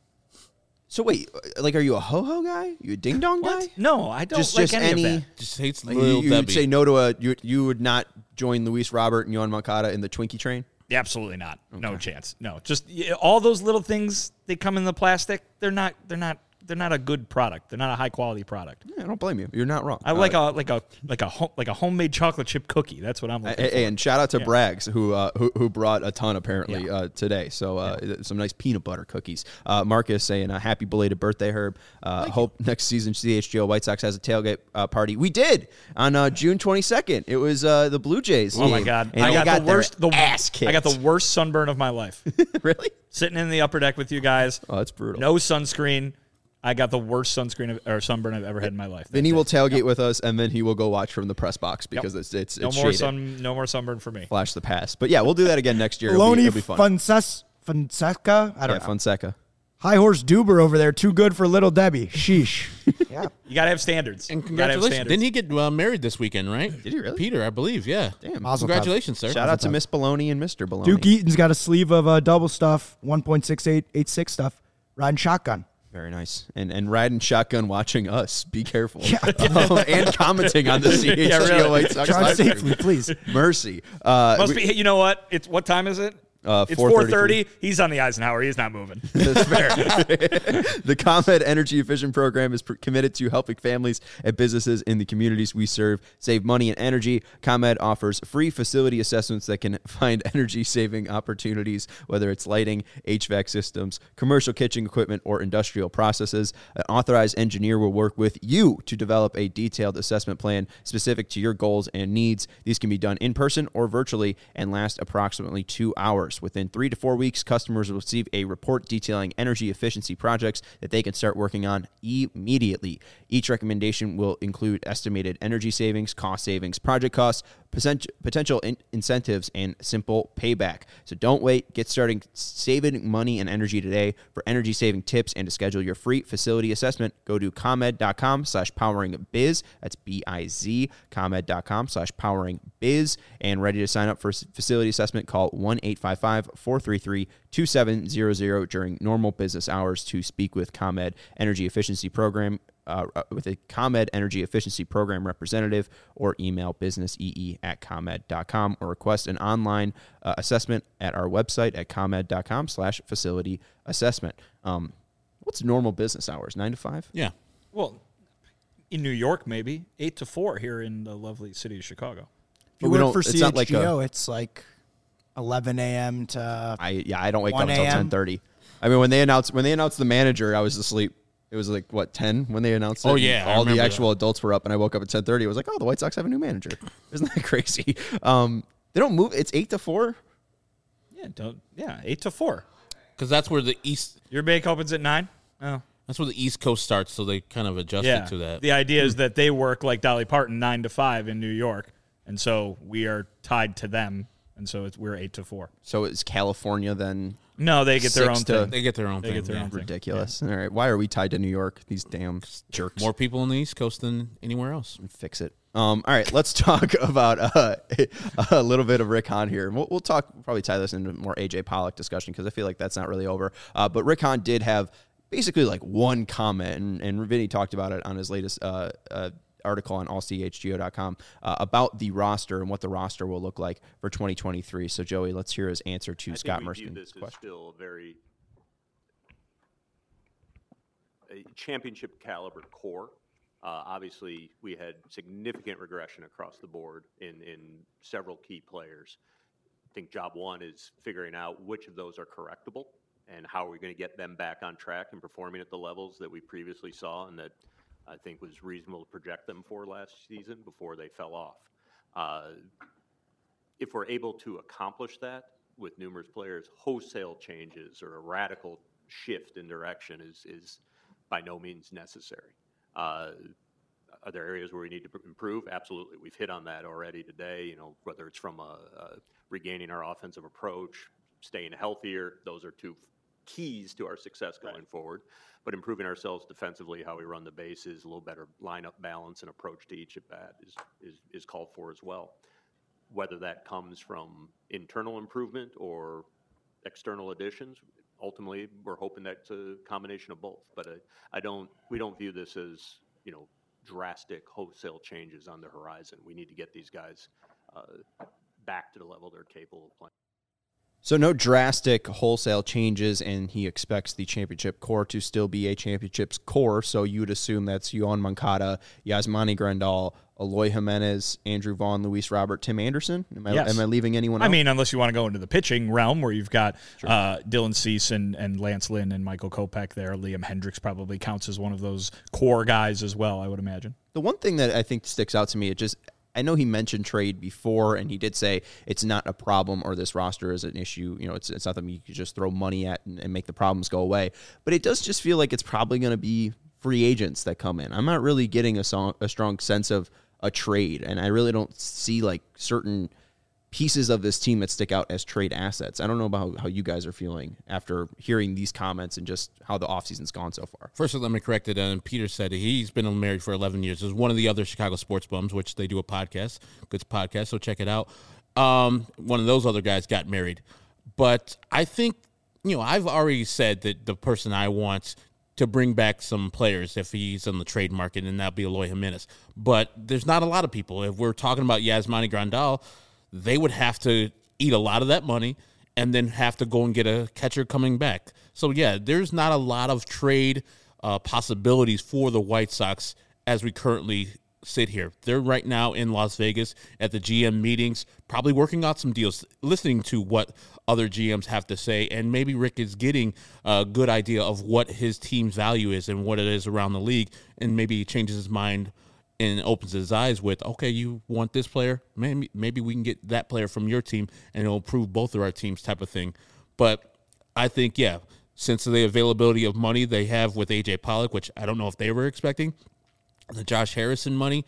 So wait, like, are you a ho-ho guy? You a ding-dong guy?
What? No, I don't
Just,
like
just
any,
any.
of that.
Just hates
Like,
little
you, you
Debbie.
would say no to a. You, you would not join Luis Robert and Yohan Moncada in the Twinkie train.
Absolutely not. No chance. No. Just yeah, all those little things they come in the plastic. They're not. They're not. They're not a good product. They're not a high quality product.
Yeah, I don't blame you. You're not wrong.
I like a like a like a home, like a homemade chocolate chip cookie. That's what I'm looking
Hey,
for.
hey, and shout out to Braggs who, uh, who who brought a ton apparently
Yeah.
uh, today. So uh, some nice peanut butter cookies. Uh, Marcus saying a happy belated birthday, Herb. Uh, hope next season C H G O White Sox has a tailgate uh, party. We did on uh, June twenty-second. It was uh, the Blue Jays.
Oh my
game,
god!
and
I
they
got, the
their
worst. The
ass kicked.
I got the worst sunburn of my life.
really.
Sitting in the upper deck with you guys.
Oh, that's brutal.
No sunscreen. I got the worst sunscreen of, or sunburn I've ever had in my life.
Then he
That
will
day.
tailgate with us, and then he will go watch from the press box because it's it's,
No
it's
more
shaded.
sun. No more sunburn for me.
Flash the pass. But yeah, we'll do that again next year. It'll be,
Baloney
it'll be fun.
Fonses- Fonseca. I don't
yeah,
know.
Fonseca.
High Horse Duber over there. Too good for Little Debbie. Sheesh. yeah.
You gotta have standards.
And
You gotta have
congratulations.
standards.
Didn't he get uh, married this weekend, right?
Did he really?
Peter, I believe, yeah.
Damn.
Mazel tov.
Congratulations, sir.
Shout out to Miss Baloney and Mister Baloney.
Duke Eaton's got a sleeve of uh, double stuff, one point six eight eight six stuff, riding shotgun.
Very nice. And and riding shotgun watching us. Be careful. Um, and commenting on the C H G O
Yeah, really.
White Sox
Drive
live stream.
safely, please.
Mercy. Uh,
Must
we-
be. You know what? It's what time is it?
Uh,
it's
four
four
thirty-three.
thirty. He's on the Eisenhower. He's not moving.
That's fair. The ComEd Energy Efficient Program is pr- committed to helping families and businesses in the communities we serve save money and energy. ComEd offers free facility assessments that can find energy-saving opportunities, whether it's lighting, H V A C systems, commercial kitchen equipment, or industrial processes. An authorized engineer will work with you to develop a detailed assessment plan specific to your goals and needs. These can be done in person or virtually and last approximately two hours. Within three to four weeks, customers will receive a report detailing energy efficiency projects that they can start working on immediately. Each recommendation will include estimated energy savings, cost savings, project costs, potent- potential in- incentives, and simple payback. So don't wait. Get starting saving money and energy today. For energy saving tips and to schedule your free facility assessment, go to ComEd.com slash powering biz. That's B I Z. ComEd.com slash powering biz. And ready to sign up for facility assessment, call one eight five five, four three three, two seven zero zero during normal business hours to speak with ComEd Energy Efficiency Program uh, with a ComEd Energy Efficiency Program representative, or email businessee at ComEd dot com or request an online uh, assessment at our website at ComEd.com slash facility assessment. Um, what's normal business hours? Nine to five?
Yeah.
Well, in New York, maybe eight to four here in the lovely city of Chicago.
If you
But we
work
don't-
for
it's
C
not
H G O,
like a-
it's like eleven a.m. to
I yeah, I don't wake up
one
until
a.m.?
ten thirty. I mean, when they announced when they announced the manager, I was asleep. It was like what ten when they announced it.
Oh,
and
yeah, I
all the
remember
actual adults were up, and I woke up at ten thirty. I was like, oh, the White Sox have a new manager. Isn't that crazy? Um, they don't move. It's eight to four.
Yeah, don't. Yeah, eight to four.
Because that's where the East
Your bank opens at nine. Oh,
that's where the East Coast starts, so they kind of adjusted
yeah.
to that.
The idea is that they work like Dolly Parton nine to five in New York, and so we are tied to them, and so it's we're eight to four.
So it's California then.
No, they get their
Six
own
to-
thing.
They get their own
They
thing.
get their
yeah.
own thing.
Ridiculous. All right, why are we tied to New York? These damn jerks.
More people on the East Coast than anywhere else.
Fix it. Um, all right, let's talk about uh, a little bit of Rick Hahn here. We'll, we'll talk, probably tie this into more A J Pollock discussion because I feel like that's not really over. Uh, but Rick Hahn did have basically like one comment, and, and Vinny talked about it on his latest uh, uh, article on all c h g o dot com uh, about the roster and what the roster will look like for twenty twenty-three. So, Joey, let's hear his answer to
I
Scott
think we view
Merston's
this as
question.
still a very a championship caliber core. Uh, obviously, we had significant regression across the board in, in several key players. I think job one is figuring out which of those are correctable and how are we going to get them back on track and performing at the levels that we previously saw and that I think was reasonable to project them for last season before they fell off. Uh, if we're able to accomplish that with numerous players, wholesale changes or a radical shift in direction is, is by no means necessary. Uh, are there areas where we need to improve? Absolutely. We've hit on that already today, you know, whether it's from a, a regaining our offensive approach, staying healthier. Those are two keys to our success going right. forward. But improving ourselves defensively, how we run the bases, a little better lineup balance and approach to each at bat is, is, is called for as well. Whether that comes from internal improvement or external additions, ultimately, we're hoping that's a combination of both. But I, I don't, we don't view this as, you know, drastic wholesale changes on the horizon. We need to get these guys uh, back to the level they're capable of playing.
So no drastic wholesale changes, and he expects the championship core to still be a championship's core. So you would assume that's Yoan Moncada, Yasmani Grandal, Eloy Jimenez, Andrew Vaughn, Luis Robert, Tim Anderson. Am I,
yes.
am I leaving anyone
I
out?
mean, unless you want to go into the pitching realm where you've got
Sure.
uh, Dylan Cease and, and Lance Lynn and Michael Kopech there. Liam Hendricks probably counts as one of those core guys as well, I would imagine.
The one thing that I think sticks out to me, it just, I know he mentioned trade before, and he did say it's not a problem or this roster is an issue. You know, it's it's not something you could just throw money at and, and make the problems go away. But it does just feel like it's probably going to be free agents that come in. I'm not really getting a, song, a strong sense of a trade, and I really don't see like certain pieces of this team that stick out as trade assets. I don't know about how you guys are feeling after hearing these comments and just how the offseason's gone so far.
First, let me correct it. And Peter said he's been married for eleven years. It was one of the other Chicago Sports Bums, which they do a podcast, good podcast, so check it out. Um, one of those other guys got married. But I think, you know, I've already said that the person I want to bring back some players if he's on the trade market, and that'll be Eloy Jimenez. But there's not a lot of people. If we're talking about Yasmani Grandal, they would have to eat a lot of that money and then have to go and get a catcher coming back. So, yeah, there's not a lot of trade uh, possibilities for the White Sox as we currently sit here. They're right now in Las Vegas at the G M meetings, probably working out some deals, listening to what other G Ms have to say, and maybe Rick is getting a good idea of what his team's value is and what it is around the league, and maybe he changes his mind and opens his eyes with, okay, you want this player? Maybe maybe we can get that player from your team, and it'll improve both of our teams type of thing. But I think, yeah, since the availability of money they have with A J Pollock, which I don't know if they were expecting, the Josh Harrison money,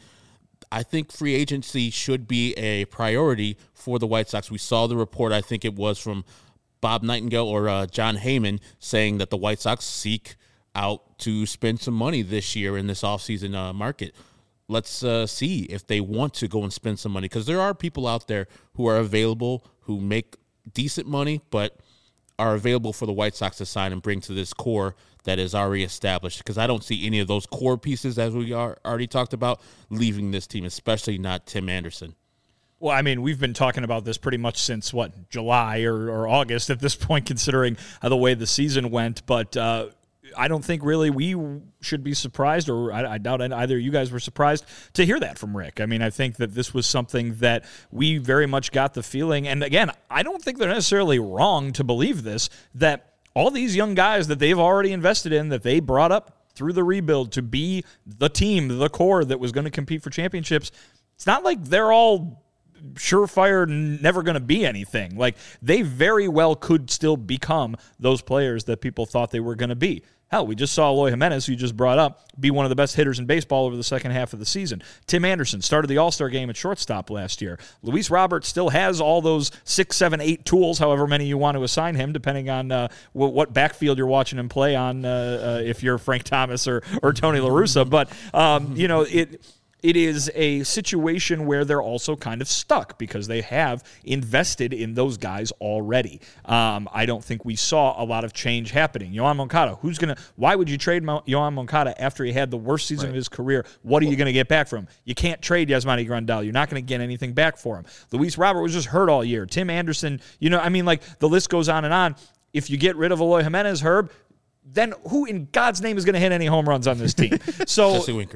I think free agency should be a priority for the White Sox. We saw the report, I think it was from Bob Nightingale or uh, John Heyman, saying that the White Sox seek out to spend some money this year in this offseason uh, market. Let's uh, see if they want to go and spend some money, because there are people out there who are available, who make decent money, but are available for the White Sox to sign and bring to this core that is already established, because I don't see any of those core pieces, as we are already talked about, leaving this team, especially not Tim Anderson.
Well, I mean, we've been talking about this pretty much since, what, July or, or August at this point, considering how the way the season went. But uh, I don't think really we should be surprised, or I, I doubt either you guys were surprised to hear that from Rick. I mean, I think that this was something that we very much got the feeling, and again, I don't think they're necessarily wrong to believe this, that all these young guys that they've already invested in, that they brought up through the rebuild to be the team, the core that was going to compete for championships, it's not like they're all surefire, never going to be anything. Like, they very well could still become those players that people thought they were going to be. Hell, we just saw Eloy Jimenez, who you just brought up, be one of the best hitters in baseball over the second half of the season. Tim Anderson started the All-Star game at shortstop last year. Luis Robert still has all those six, seven, eight tools, however many you want to assign him, depending on uh, w- what backfield you're watching him play on, uh, uh, if you're Frank Thomas or, or Tony La Russa. But, um, you know, it... It is a situation where they're also kind of stuck because they have invested in those guys already. Um, I don't think we saw a lot of change happening. Yoan Moncada, who's going to, why would you trade Mo- Yoan Moncada after he had the worst season right. of his career? What are you going to get back from him? You can't trade Yasmani Grandal. You're not going to get anything back for him. Luis Robert was just hurt all year. Tim Anderson, you know, I mean, like, the list goes on and on. If you get rid of Eloy Jimenez, Herb, then who in God's name is going to hit any home runs on this team? So
Jesse Winker.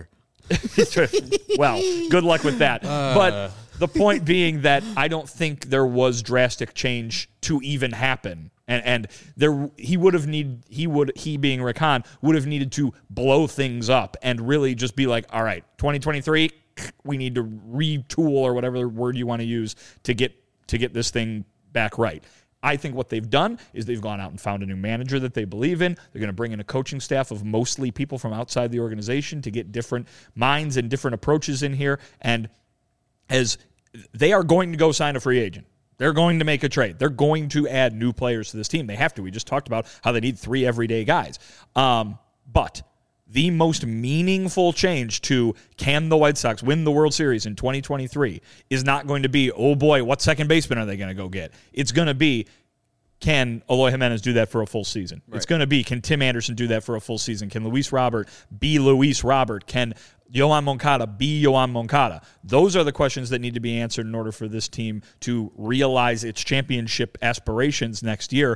Well, good luck with that.
Uh.
But the point being that I don't think there was drastic change to even happen. And and there he would have need he would he being Rick Hahn would have needed to blow things up and really just be like, all right, twenty twenty-three, we need to retool or whatever word you want to use to get to get this thing back right. I think what they've done is they've gone out and found a new manager that they believe in. They're going to bring in a coaching staff of mostly people from outside the organization to get different minds and different approaches in here. And as they are going to go sign a free agent. They're going to make a trade. They're going to add new players to this team. They have to. We just talked about how they need three everyday guys. Um, but the most meaningful change to can the White Sox win the World Series in twenty twenty-three is not going to be, oh boy, what second baseman are they going to go get? It's going to be, can Eloy Jimenez do that for a full season? Right. It's going to be, can Tim Anderson do that for a full season? Can Luis Robert be Luis Robert? Can Yoan Moncada be Yoan Moncada? Those are the questions that need to be answered in order for this team to realize its championship aspirations next year.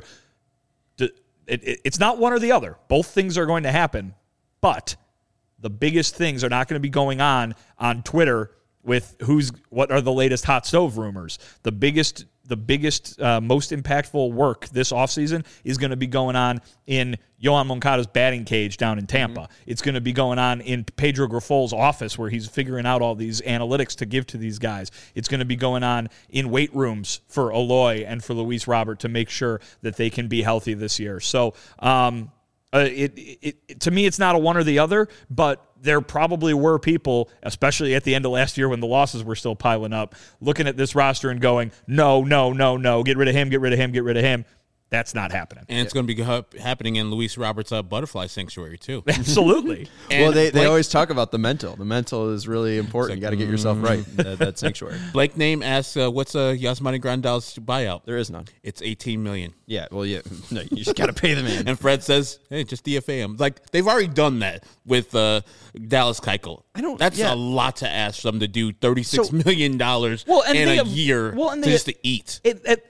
It's not one or the other. Both things are going to happen, but the biggest things are not going to be going on on Twitter with who's what are the latest hot stove rumors. The biggest the biggest, uh, most impactful work this offseason is going to be going on in Yoan Moncada's batting cage down in Tampa. Mm-hmm. It's going to be going on in Pedro Griffol's office where he's figuring out all these analytics to give to these guys. It's going to be going on in weight rooms for Eloy and for Luis Robert to make sure that they can be healthy this year. So, um, Uh, it, it, it to me, it's not a one or the other, but there probably were people, especially at the end of last year when the losses were still piling up, looking at this roster and going, no, no, no, no, get rid of him, get rid of him, get rid of him. That's not happening.
And it's going to be ha- happening in Luis Robert's uh, butterfly sanctuary, too.
Absolutely.
Well, they, they Blake, always talk about the mental. The mental is really important. Like, you got to get yourself right, that, that sanctuary.
Blake Name asks, uh, what's uh, Yasmani Grandal's buyout?
There is none.
It's eighteen million dollars.
Yeah, well, yeah. No, you just got to pay the man.
And Fred says, hey, just D F A him. Like, they've already done that with uh, Dallas Keuchel. I don't, That's yeah. a lot to ask them to do thirty-six so, million dollars well, in a have, year well, and to just to eat.
It, it,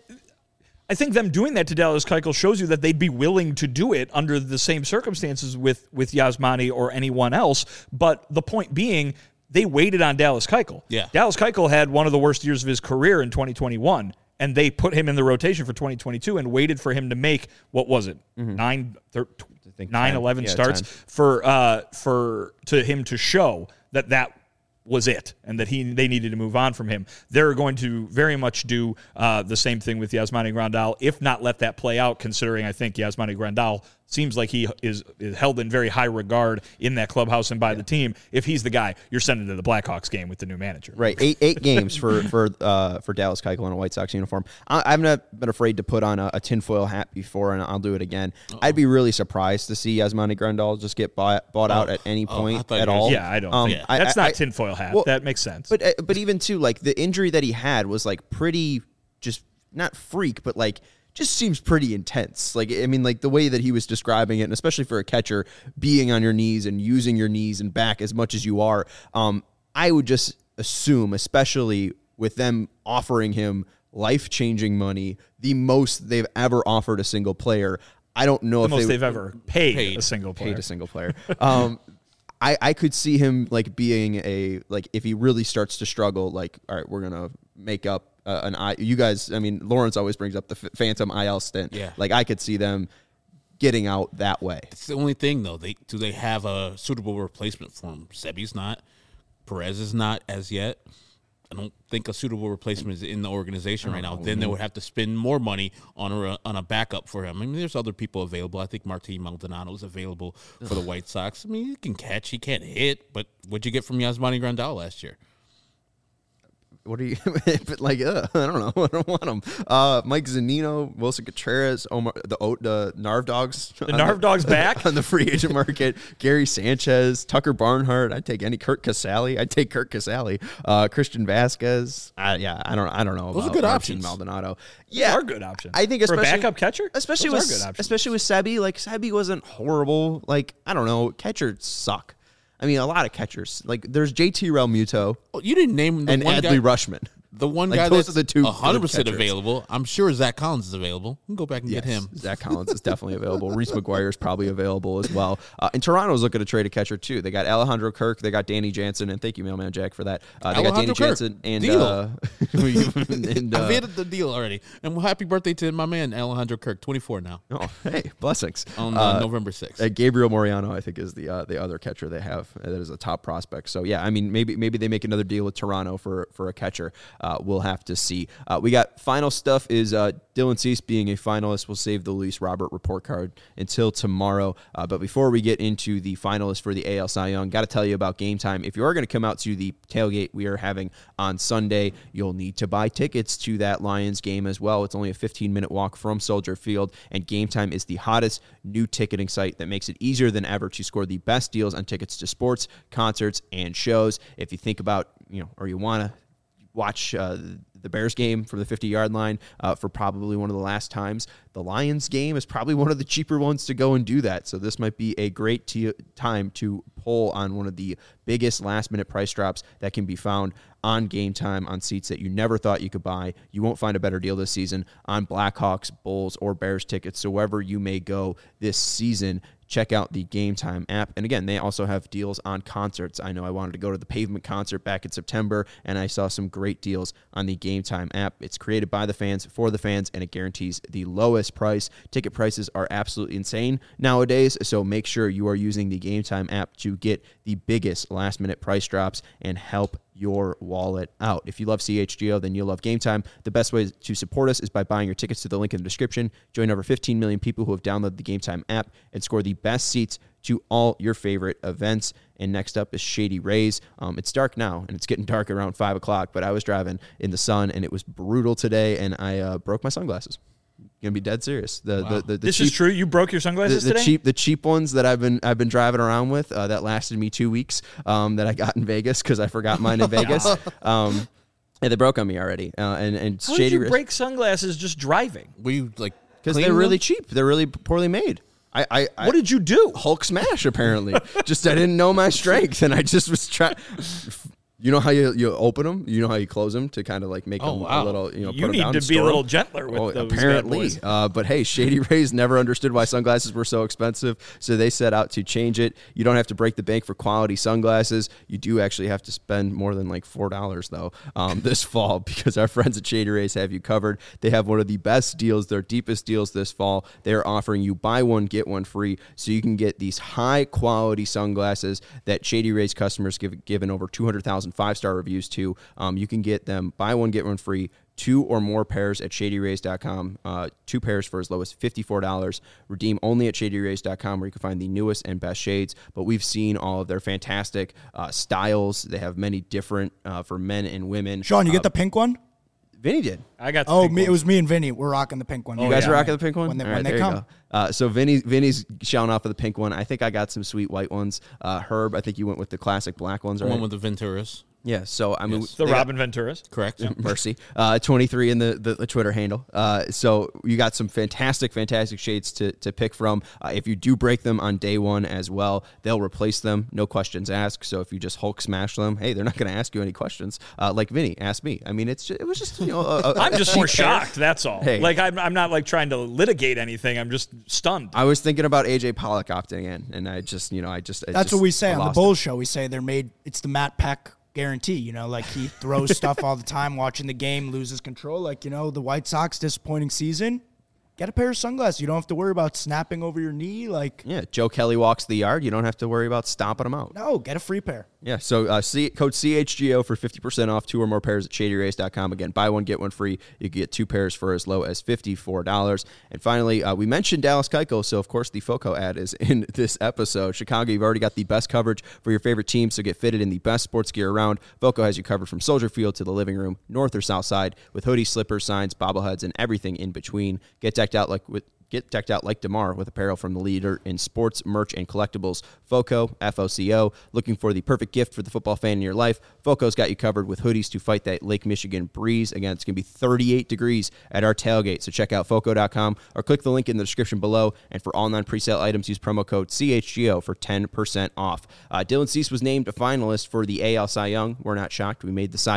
I think them doing that to Dallas Keuchel shows you that they'd be willing to do it under the same circumstances with, with Yasmani or anyone else. But the point being, they waited on Dallas Keuchel.
Yeah.
Dallas Keuchel had one of the worst years of his career in twenty twenty-one, and they put him in the rotation for twenty twenty-two and waited for him to make, what was it, mm-hmm. nine, thir- nine, eleven yeah, starts ten. for uh, for to him to show that that was it, and that he they needed to move on from him. They're going to very much do uh, the same thing with Yasmani Grandal, if not let that play out, considering I think Yasmani Grandal seems like he is, is held in very high regard in that clubhouse and by yeah. the team. If he's the guy, you're sending to the Blackhawks game with the new manager.
Right, eight eight games for for uh, for Dallas Keuchel in a White Sox uniform. I, I've not been afraid to put on a, a tinfoil hat before, and I'll do it again. Uh-oh. I'd be really surprised to see Yasmani Grandal just get bought, bought oh. out at any point oh, at all.
Yeah, I don't um, think. I, That's I, not I, tinfoil hat. Well, that makes sense.
But but even, too, like, the injury that he had was, like, pretty just, not freak, but, like, just seems pretty intense. Like, I mean, like the way that he was describing it, and especially for a catcher, being on your knees and using your knees and back as much as you are, um, I would just assume, especially with them offering him life-changing money, the most they've ever offered a single player. I don't know
the
if
most
they,
they've ever paid,
paid
a single player.
Paid a single player. um, I, I could see him like being a like if he really starts to struggle, like, all right, we're gonna make up uh, an I. You guys, I mean, Lawrence always brings up the f- phantom I L stint.
Yeah,
like I could see them getting out that way.
It's the only thing though. They do they have a suitable replacement for him? Sebi's not. Perez is not as yet. I don't think a suitable replacement is in the organization right now. Know. Then they would have to spend more money on a on a backup for him. I mean, there's other people available. I think Martin Maldonado is available for the White Sox. I mean, he can catch, he can't hit, but what'd you get from Yasmani Grandal last year?
What are you, but like, uh, I don't know. I don't want them. Uh, Mike Zunino, Wilson Contreras, Omar, the the Narv Dogs.
The Narv Dogs back
on the free agent market. Gary Sanchez, Tucker Barnhart. I'd take any. Kurt Casale. I'd take Kurt Casale. Uh, Christian Vasquez. Uh, yeah, I don't. I don't know.
Those
about
are good
Martin
options.
Maldonado.
Yeah, Those are good options.
I think especially
for a backup catcher,
especially
Those
with especially with Sebi. Like Sebi wasn't horrible. Like I don't know. Catchers suck. I mean, a lot of catchers. Like, there's J T Realmuto.
Oh, you didn't name the
and
one
Adley
guy.
Rushman.
The one
Like,
guy
those
that's
are the two
one hundred percent
good catchers.
available, I'm sure Zach Collins is available. We can go back and
Yes,
get him.
Zach Collins is definitely available. Reese McGuire is probably available as well. Uh, and Toronto's looking to trade a catcher too. They got Alejandro Kirk, they got Danny Jansen, and thank you, Mailman Jack, for that. Uh, they
Alejandro
got Danny
Kirk.
Jansen and
Deal.
uh, and, uh,
I've hit the deal already. And well, happy birthday to my man, Alejandro Kirk, twenty-four now,
oh, hey, blessings
on uh,
Uh,
November sixth.
Uh, Gabriel Moriano, I think, is the uh, the other catcher they have. Uh, that is a top prospect. So yeah, I mean, maybe maybe they make another deal with Toronto for for a catcher. Uh, we'll have to see. Uh, we got final stuff. Is uh, Dylan Cease being a finalist? We'll save the Luis Robert report card until tomorrow. Uh, but before we get into the finalists for the A L Cy Young, got to tell you about Game Time. If you are going to come out to the tailgate we are having on Sunday, you'll need to buy tickets to that Lions game as well. It's only a fifteen minute walk from Soldier Field, and Game Time is the hottest new ticketing site that makes it easier than ever to score the best deals on tickets to sports, concerts, and shows. If you think about, you know, or you want to watch uh, the Bears game from the fifty-yard line uh, for probably one of the last times, the Lions game is probably one of the cheaper ones to go and do that. So this might be a great t- time to pull on one of the biggest last-minute price drops that can be found on Game Time on seats that you never thought you could buy. You won't find a better deal this season on Blackhawks, Bulls, or Bears tickets. So wherever you may go this season, check out the Game Time app. And again, they also have deals on concerts. I know I wanted to go to the Pavement concert back in September, and I saw some great deals on the Game Time app. It's created by the fans, for the fans, and it guarantees the lowest price. Ticket prices are absolutely insane nowadays, so make sure you are using the Game Time app to get the biggest last-minute price drops and help your wallet out. If you love C H G O, then you'll love Game Time. The best way to support us is by buying your tickets to the link in the description. Join over fifteen million people who have downloaded the Game Time app and score the best seats to all your favorite events. And next up is Shady Rays. Um, it's dark now, and it's getting dark around five o'clock, but I was driving in the sun, and it was brutal today, and I uh, broke my sunglasses. Gonna be dead serious. The
Wow.
the, the, the
This
cheap,
is true. You broke your
the,
sunglasses
the
today?
cheap the cheap ones that I've been I've been driving around with uh, that lasted me two weeks um, that I got in Vegas because I forgot mine in Vegas. Um, and they broke on me already. Uh, and and
How
Shady
did you
Rays-
break sunglasses just driving?
Were you like
because
clean
they're
them?
really cheap. They're really poorly made. I, I, I
What did you do?
Hulk smash apparently. Just I didn't know my strength, and I just was trying. You know how you you open them? You know how you close them to kind of like make
Oh,
them
wow.
a little, you know,
You
put 'em
need
down
to
and
be a
store
little
'em.
gentler with
Oh,
those bad
apparently.
boys.
Uh, but hey, Shady Rays never understood why sunglasses were so expensive, so they set out to change it. You don't have to break the bank for quality sunglasses. You do actually have to spend more than like four dollars though um, this fall because our friends at Shady Rays have you covered. They have one of the best deals, their deepest deals this fall. They are offering you buy one get one free, so you can get these high quality sunglasses that Shady Rays customers give given over two hundred thousand five star reviews to. Um, you can get them buy one get one free, two or more pairs at shady rays dot com. Uh, two pairs for as low as fifty-four dollars. Redeem only at shady rays dot com, where you can find the newest and best shades. But we've seen all of their fantastic uh, styles. They have many different uh, for men and women.
Sean, you
uh,
get the pink one?
Vinny did.
I got the
Oh,
pink
me, it
ones.
was me and Vinny. We're rocking the pink one.
You guys
yeah.
are rocking the pink one?
When they,
All
when
right,
they
there you
come.
go. Uh, so Vinny, Vinny's showing off of the pink one. I think I got some sweet white ones. Uh, Herb, I think you went with the classic black ones,
The
right?
one with the Venturas.
Yeah, so I mean,
Yes.
the
they got-
Robin Venturas.
Correct.
Mercy. Uh, twenty-three in the, the, the Twitter handle. Uh, so you got some fantastic, fantastic shades to, to pick from. Uh, if you do break them on day one as well, they'll replace them. No questions asked. So if you just Hulk smash them, hey, they're not going to ask you any questions. Uh, like Vinny asked me. I mean, it's just, it was just, you know, a, a,
I'm just
a
more
cheap pair.
shocked. That's all.
Hey.
Like I'm, I'm not like trying to litigate anything. I'm just stunned.
I was thinking about A J Pollock opting in, and I just, you know, I just. I
That's
just-
what we say
I
on the
lost
Bulls show. We say they're made, it's the Matt Peck guarantee. You know, like he throws stuff all the time, watching the game, loses control. Like, you know, the White Sox disappointing season. Get a pair of sunglasses. You don't have to worry about snapping over your knee. Like,
Yeah, Joe Kelly walks the yard. You don't have to worry about stomping them out.
no, get a free pair.
Yeah, so uh, C- code C H G O for fifty percent off two or more pairs at shady rays dot com. Again, buy one, get one free. You can get two pairs for as low as fifty-four dollars. And finally, uh, we mentioned Dallas Keuchel, so of course the FOCO ad is in this episode. Chicago, you've already got the best coverage for your favorite team, so get fitted in the best sports gear around. FOCO has you covered from Soldier Field to the living room, north or south side, with hoodies, slippers, signs, bobbleheads, and everything in between. Get decked out like with Get decked out like DeMar with apparel from the leader in sports, merch, and collectibles, FOCO, F O C O. Looking for the perfect gift for the football fan in your life? FOCO's got you covered with hoodies to fight that Lake Michigan breeze. Again, it's going to be thirty-eight degrees at our tailgate, so check out foco dot com or click the link in the description below. And for all non-presale items, use promo code C H G O for ten percent off. Uh, Dylan Cease was named a finalist for the A L Cy Young. We're not shocked. We made the Cy Young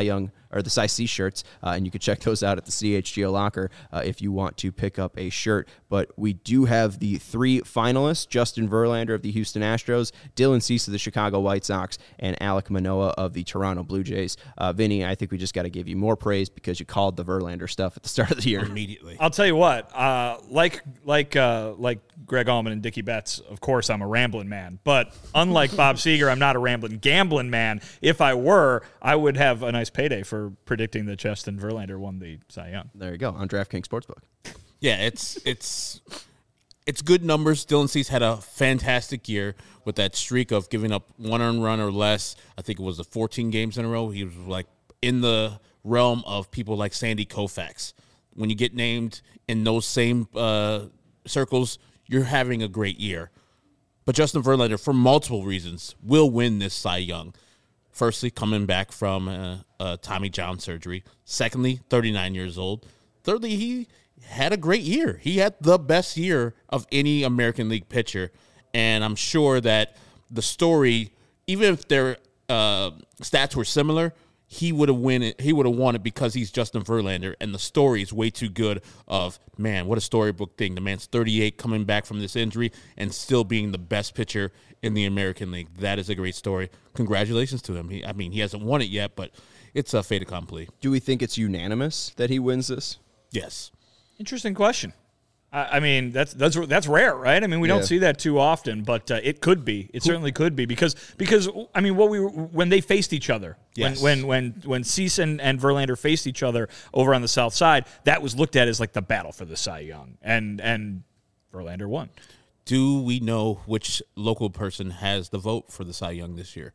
or the size C shirts, uh, and you can check those out at the C H G O locker uh, if you want to pick up a shirt. But we do have the three finalists: Justin Verlander of the Houston Astros, Dylan Cease of the Chicago White Sox, and Alek Manoah of the Toronto Blue Jays. Uh, Vinny, I think we just got to give you more praise because you called the Verlander stuff at the start of the year.
Immediately.
I'll tell you what, uh, like like uh, like Greg Allman and Dickie Betts, of course I'm a rambling man. But unlike Bob Seger, I'm not a rambling gambling man. If I were, I would have a nice payday for predicting that Justin Verlander won the Cy Young.
There you go, on DraftKings Sportsbook.
Yeah, it's it's it's good numbers. Dylan Cease had a fantastic year with that streak of giving up one earned run or less. I think it was the fourteen games in a row. He was like in the realm of people like Sandy Koufax. When you get named in those same uh, circles, you're having a great year. But Justin Verlander, for multiple reasons, will win this Cy Young. Firstly, coming back from uh, uh, Tommy John surgery. Secondly, thirty-nine years old. Thirdly, he had a great year. He had the best year of any American League pitcher. And I'm sure that the story, even if their uh, stats were similar, he would have win it. He would have won it because he's Justin Verlander, and the story is way too good. Of man, what a storybook thing! The man's thirty-eight, coming back from this injury, and still being the best pitcher in the American League. That is a great story. Congratulations to him. He, I mean, he hasn't won it yet, but it's a fait accompli.
Do we think it's unanimous that he wins this?
Yes.
Interesting question. I I mean, that's that's that's rare, right? I mean, we
Yeah.
don't see that too often, but uh, it could be. It certainly could be because because I mean, what we were, when they faced each other,
Yes.
when when when when Cease and, and Verlander faced each other over on the South Side, that was looked at as like the battle for the Cy Young, and and Verlander won.
Do we know which local person has the vote for the Cy Young this year?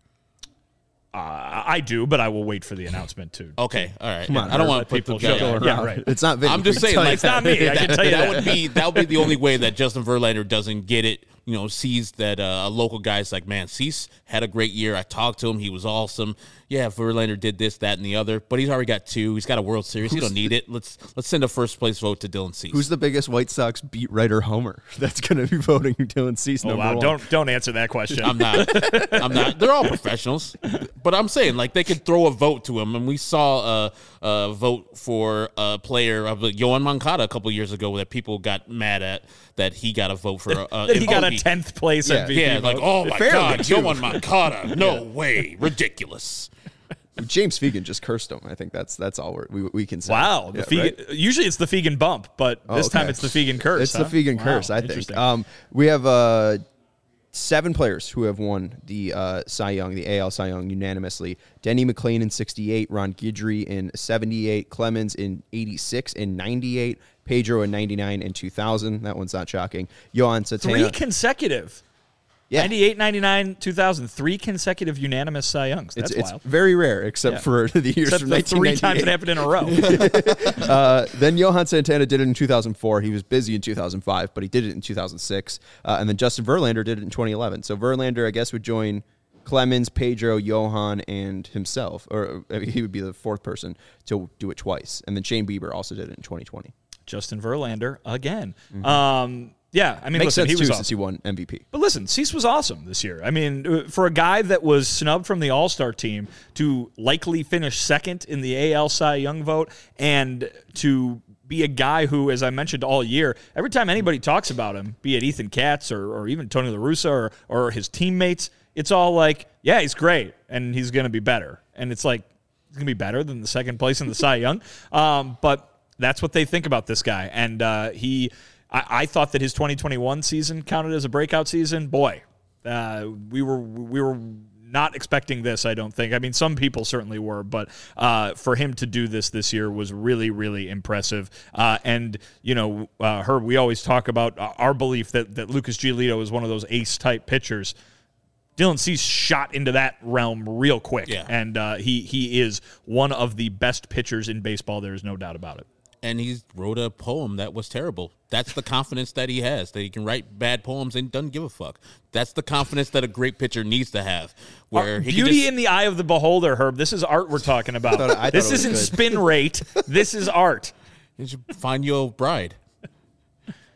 Uh, I do, but I will wait for the announcement too.
Okay, all right.
on,
I don't
Bert,
want
let
to put
people
the
show.
yeah,
Yeah, right.
It's not Vinny.
I'm just
we can
saying,
tell
like,
you
It's not me. I can
that,
tell you
that
that.
would be that would be the only way that Justin Verlander doesn't get it. You know, sees that uh, a local guy's like, man, Cease had a great year. I talked to him; he was awesome. Yeah, Verlander did this, that, and the other, but he's already got two. He's got a World Series. He don't need it. Let's let's send a first place vote to Dylan Cease.
Who's the biggest White Sox beat writer homer that's going to be voting Dylan Cease
Oh
number
wow!
one?
Don't don't answer that question.
I'm not. I'm not. They're all professionals, but I'm saying like they could throw a vote to him, and we saw a, a vote for a player of like, Yohan Moncada a couple years ago that people got mad at that he got a vote for. Uh,
that he got a
M V P.
tenth place
Yeah.
M V P.
Yeah, like
vote.
oh my
Fairly,
god,
too.
Yohan Moncada, no way, ridiculous.
James Fegan just cursed him. I think that's that's all we're, we we can say.
Wow, the
Yeah,
Fegan,
right?
usually it's the Fegan bump, but
Oh,
this time
okay.
it's the Fegan curse.
It's
huh?
the Fegan
Wow,
curse, I think.
interesting.
Um, we have uh, seven players who have won the uh, Cy Young, the A L Cy Young unanimously. Denny McClain in sixty-eight, Ron Guidry in seventy-eight, Clemens in eighty-six and ninety-eight, Pedro in ninety-nine and two thousand. That one's not shocking. Johan Santana.
Three consecutive.
Yeah.
ninety-eight, ninety-nine, two thousand. Three consecutive unanimous Cy Youngs. That's
It's, it's
wild.
very rare, except
Yeah.
for the years
Except
from
the three times it
nineteen ninety-eight.
happened in a row.
Uh, then Johan Santana did it in two thousand four. He was busy in two thousand five, but he did it in two thousand six. Uh, and then Justin Verlander did it in twenty eleven. So Verlander, I guess, would join Clemens, Pedro, Johan, and himself. Or uh, he would be the fourth person to do it twice. And then Shane Bieber also did it in twenty twenty.
Justin Verlander again. Um, yeah, I mean,
Makes
listen,
sense,
he
too,
was
since
awesome.
he won M V P.
But listen, Cease was awesome this year. I mean, uh, for a guy that was snubbed from the All-Star team to likely finish second in the A L Cy Young vote and to be a guy who, as I mentioned all year, every time anybody talks about him, be it Ethan Katz or, or even Tony La Russa or, or his teammates, it's all like, yeah, he's great and he's going to be better. And it's like, he's going to be better than the second place in the Cy Young. Um, but that's what they think about this guy. And uh, he... I, I thought that his twenty twenty-one season counted as a breakout season. Boy, uh, we were we were not expecting this, I don't think. I mean, some people certainly were, but uh, for him to do this this year was really, really impressive. Uh, and, you know, uh, Herb, we always talk about our belief that, that Lucas Giolito is one of those ace-type pitchers. Dylan Cease shot into that realm real quick,
Yeah.
and uh, he he is one of the best pitchers in baseball. There is no doubt about it.
And he wrote a poem that was terrible. That's the confidence that he has, that he can write bad poems and doesn't give a fuck. That's the confidence that a great pitcher needs to have. Where
Art-
he can
beauty
just,
in the eye of the beholder, Herb. This is art we're talking about.
I thought- I thought
this
it was
isn't
good.
spin rate. This is art.
you should find your bride.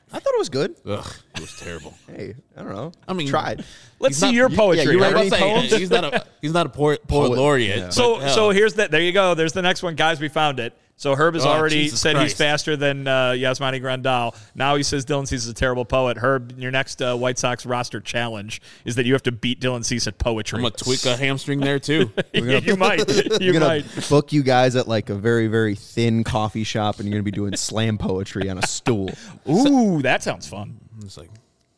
I thought it was good.
Ugh, it was terrible.
Hey, I don't know.
I mean,
tried.
Let's
He's
see
not-
your
you-
poetry.
yeah, you
Have
read
any
any
poems?
he's not a he's not a poet, poet
Poet,
laureate.
yeah.
but
So
hell.
so here's that. There you go. There's the next one, guys. We found it. So Herb has
Oh,
already
Jesus
said he's
Christ.
faster than uh, Yasmani Grandal. Now he says Dylan Cease is a terrible poet. Herb, your next uh, White Sox roster challenge is that you have to beat Dylan Cease at poetry.
I'm gonna tweak a hamstring there too.
you might. You
We're gonna
might.
book you guys at like a very, very thin coffee shop, and you're gonna be doing slam poetry on a stool.
Ooh, that sounds fun.
It's like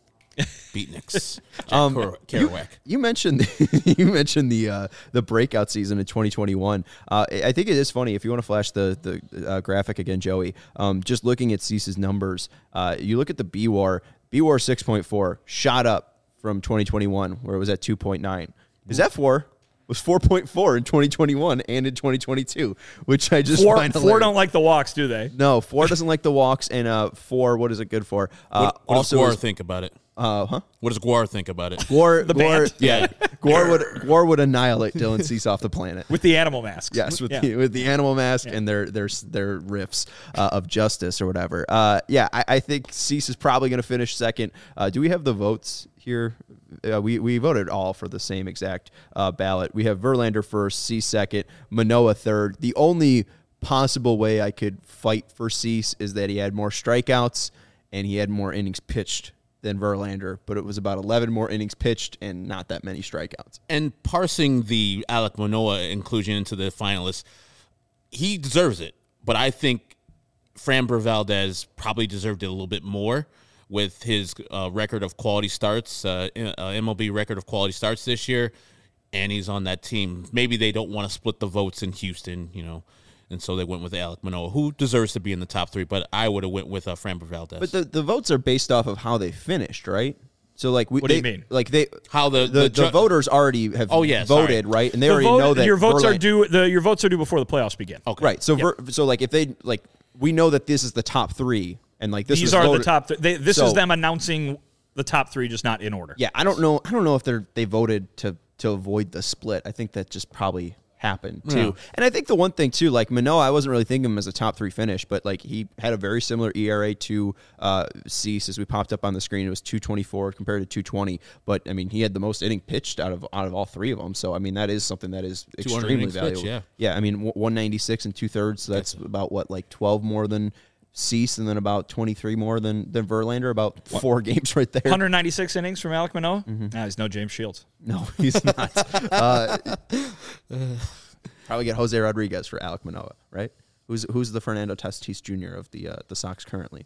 beatniks. Jack
Um,
Ker-
you,
Kerouac.
you mentioned you mentioned the uh, the breakout season in twenty twenty-one. Uh, I think it is funny if you want to flash the the uh, graphic again, Joey. Um, just looking at Cease's numbers, uh, you look at the B W A R. B W A R six point four shot up from twenty twenty-one, where it was at two point nine. His F W A R was four point four in twenty twenty-one and in twenty twenty-two, which I just
Four,
find
four
hilarious.
don't like the walks, do they?
No, four doesn't like the walks, and uh, four, what is it good for? Uh,
What, what
also,
does Guar
is-
think about it?
uh, huh?
What does Guar think about it?
Guar,
The
Guar,
band?
yeah, Guar would Guar would annihilate Dylan Cease off the planet.
With the animal masks.
Yes, with
Yeah.
the with the animal mask and their their their riffs uh, of justice or whatever. Uh, yeah, I, I think Cease is probably going to finish second. Uh, do we have the votes here? Uh, we we voted all for the same exact uh, ballot. We have Verlander first, Cease second, Manoah third. The only possible way I could fight for Cease is that he had more strikeouts and he had more innings pitched than Verlander, but it was about eleven more innings pitched and not that many strikeouts.
And parsing the Alek Manoah inclusion into the finalists, he deserves it. But I think Framber Valdez probably deserved it a little bit more with his uh, record of quality starts, uh, uh, M L B record of quality starts this year, and he's on that team. Maybe they don't want to split the votes in Houston, you know, and so they went with Alek Manoah, who deserves to be in the top three, but I would have went with uh, Framber Valdez.
But the, the votes are based off of how they finished, right? So like we,
What do
they,
you mean?
Like they
How the-
the,
the
the,
ju-
voters already have
Oh, yeah,
voted,
sorry.
right? And they
The
already
vote-
know that
your votes are
Verlander-
due. The your votes are due before the playoffs begin.
okay.
right. So Ver, so like if they like we know that this is the top three, and like this
These
was
are
voted,
the top. Th- they, this
So-
is them announcing the top three, just not in order.
Yeah, I don't know. I don't know if they're they voted to to avoid the split. I think that just probably happened too.
Yeah.
And I think the one thing too, like Manoah, I wasn't really thinking him as a top three finish, but like he had a very similar E R A to uh, Cease as we popped up on the screen. It was two twenty-four compared to two twenty. But I mean, he had the most inning pitched out of out of all three of them. So I mean, that is something that is
two hundred
extremely
innings pitched,
valuable.
yeah.
yeah. I mean, one ninety-six and two thirds. So that's about what, like twelve more than Cease, and then about twenty-three more than than Verlander. About four games right there.
one ninety-six innings from Alek Manoah.
Mm-hmm.
Nah, he's no James Shields.
No, he's not. uh, probably get Jose Rodriguez for Alek Manoah, right? Who's who's the Fernando Tatis Junior of the uh, the Sox currently?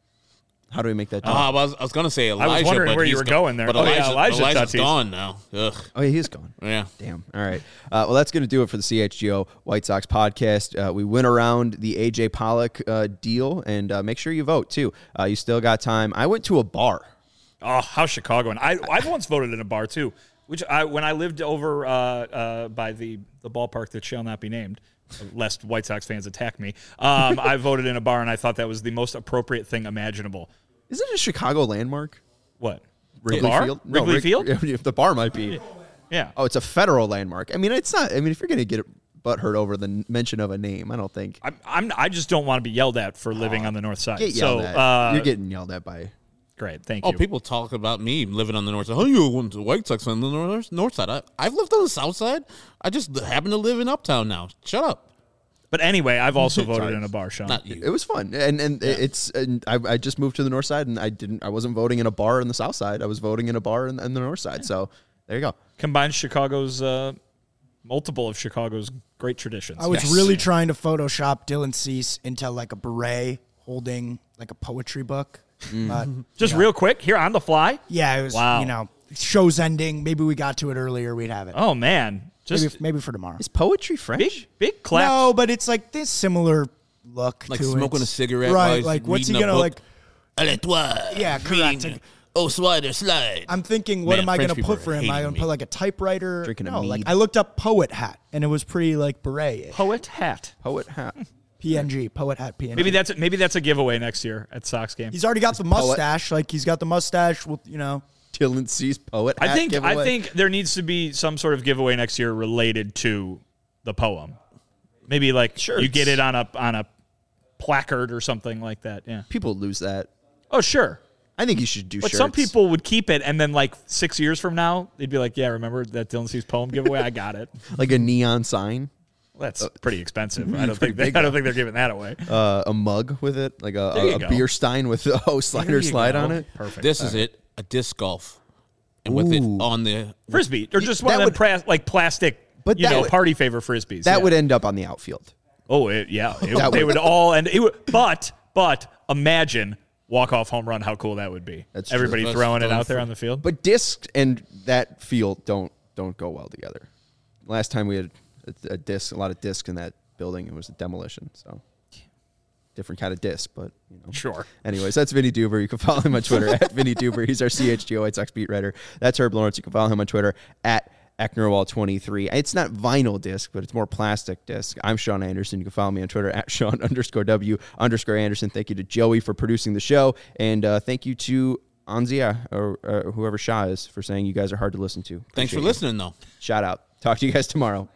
How do we make that?
Uh,
jump?
I was, I was going to say Elijah.
wondering
but
where you
he's
were
go-
going there.
But
Oh, yeah,
Elijah,
Elijah
Elijah's
Tatis.
gone now. Ugh.
Oh, yeah, he's gone.
Yeah.
Damn. All right. Uh, well, that's going to do it for the C H G O White Sox podcast. Uh, we went around the A J Pollock uh, deal, and uh, make sure you vote too. Uh, you still got time. I went to a bar.
Oh, how's Chicago? And I I've once voted in a bar too. Which I when I lived over uh, uh, by the the ballpark that shall not be named, lest White Sox fans attack me. Um, I voted in a bar, and I thought that was the most appropriate thing imaginable.
Is it a Chicago landmark?
What?
Wrigley
the bar?
Field?
Wrigley
Rig-
Field?
The bar might be.
Yeah.
Oh, it's a federal landmark. I mean, it's not. I mean, if you're going to get butthurt over the n- mention of a name, I don't think.
I'm, I'm I just don't want to be yelled at for living on the north side.
Get yelled
so
at.
Uh,
You're getting yelled at by.
great. Thank
Oh,
you.
people talk about me living on the north side. Oh, you went to White Sox on the north, north side. I, I've lived on the south side. I just happen to live in Uptown now. Shut up.
But anyway, I've also voted
Sorry.
in a bar, Sean.
Not you.
It was fun, and and it's. And I, I just moved to the north side, and I didn't. I wasn't voting in a bar in the south side. I was voting in a bar in, in the north side. So there you go.
Combines Chicago's uh, multiple of Chicago's great traditions.
I was
Yes.
really trying to Photoshop Dylan Cease into like a beret holding like a poetry book. But,
just
you know,
real quick here on the fly.
Yeah, it was,
Wow.
you know, show's ending. Maybe we got to it earlier. We'd have it.
Oh man, just
maybe, maybe for tomorrow.
Is poetry French?
big big claps.
No, but it's like this similar look
Like
to
smoking
it.
a cigarette
Right,
while he's
like what's he
reading a
gonna
book.
like
Allez, toi.
Yeah, correct.
Green. Oh, slider, slide.
I'm thinking, what
Man,
am I
French
going to
people
put
are
for him? Am I
hating
going to
me.
put like a typewriter?
Drinking a
no, like
mead.
I looked up poet hat, and it was pretty like beret.
Poet hat.
Poet hat.
P N G, poet hat, P N G.
Maybe that's maybe that's a giveaway next year at Sox game.
He's already got the mustache. Like he's got the mustache. With you know,
Dylan Cease poet hat
I think
giveaway.
I think there needs to be some sort of giveaway next year related to the poem. Maybe like
Sure,
you get
it's-
it on a on a placard or something like that. Yeah.
people lose that.
Oh, sure.
I think you should do
But
shirts.
some people would keep it, and then like six years from now, they'd be like, "Yeah, remember that Dylan Cease poem giveaway? I got it."
like a neon sign,
Well, that's pretty expensive. I don't
pretty
think they,
big,
I don't think they're giving that away.
uh, a mug with it, like a,
There you
a, a
go.
beer stein with a oh, slider
There you
slide
go.
on it.
Perfect.
This is it, a disc golf. And with it
Ooh.
on the
Frisbee, or just one
That
of them
would-
pra- like plastic,
But
you
that
know,
would-
party favor frisbees.
That
yeah.
would end up on the outfield.
Oh, it, yeah. It,
That
they
would-
would all end. It would, but but imagine walk off home run. How cool that would be.
That's true.
Everybody
That's
throwing it
fun
out there
for-
on the field.
But disc and that field don't don't go well together. Last time we had a, a disc, a lot of disc in that building, it was a demolition. So different kind of disc, but you know.
Sure.
Anyways, that's Vinny Duber. You can follow him on Twitter at Vinny Duber. He's our C H G O White Sox beat writer. That's Herb Lawrence. You can follow him on Twitter at Ecknerwall twenty-three. It's not vinyl disc, but it's more plastic disc. I'm Sean Anderson. You can follow me on Twitter at Sean underscore W underscore Anderson. Thank you to Joey for producing the show. And uh, thank you to Anzia or, or whoever Shah is for saying you guys are hard to listen to.
Thanks
Appreciate
for
you.
listening, though.
Shout out. Talk to you guys tomorrow.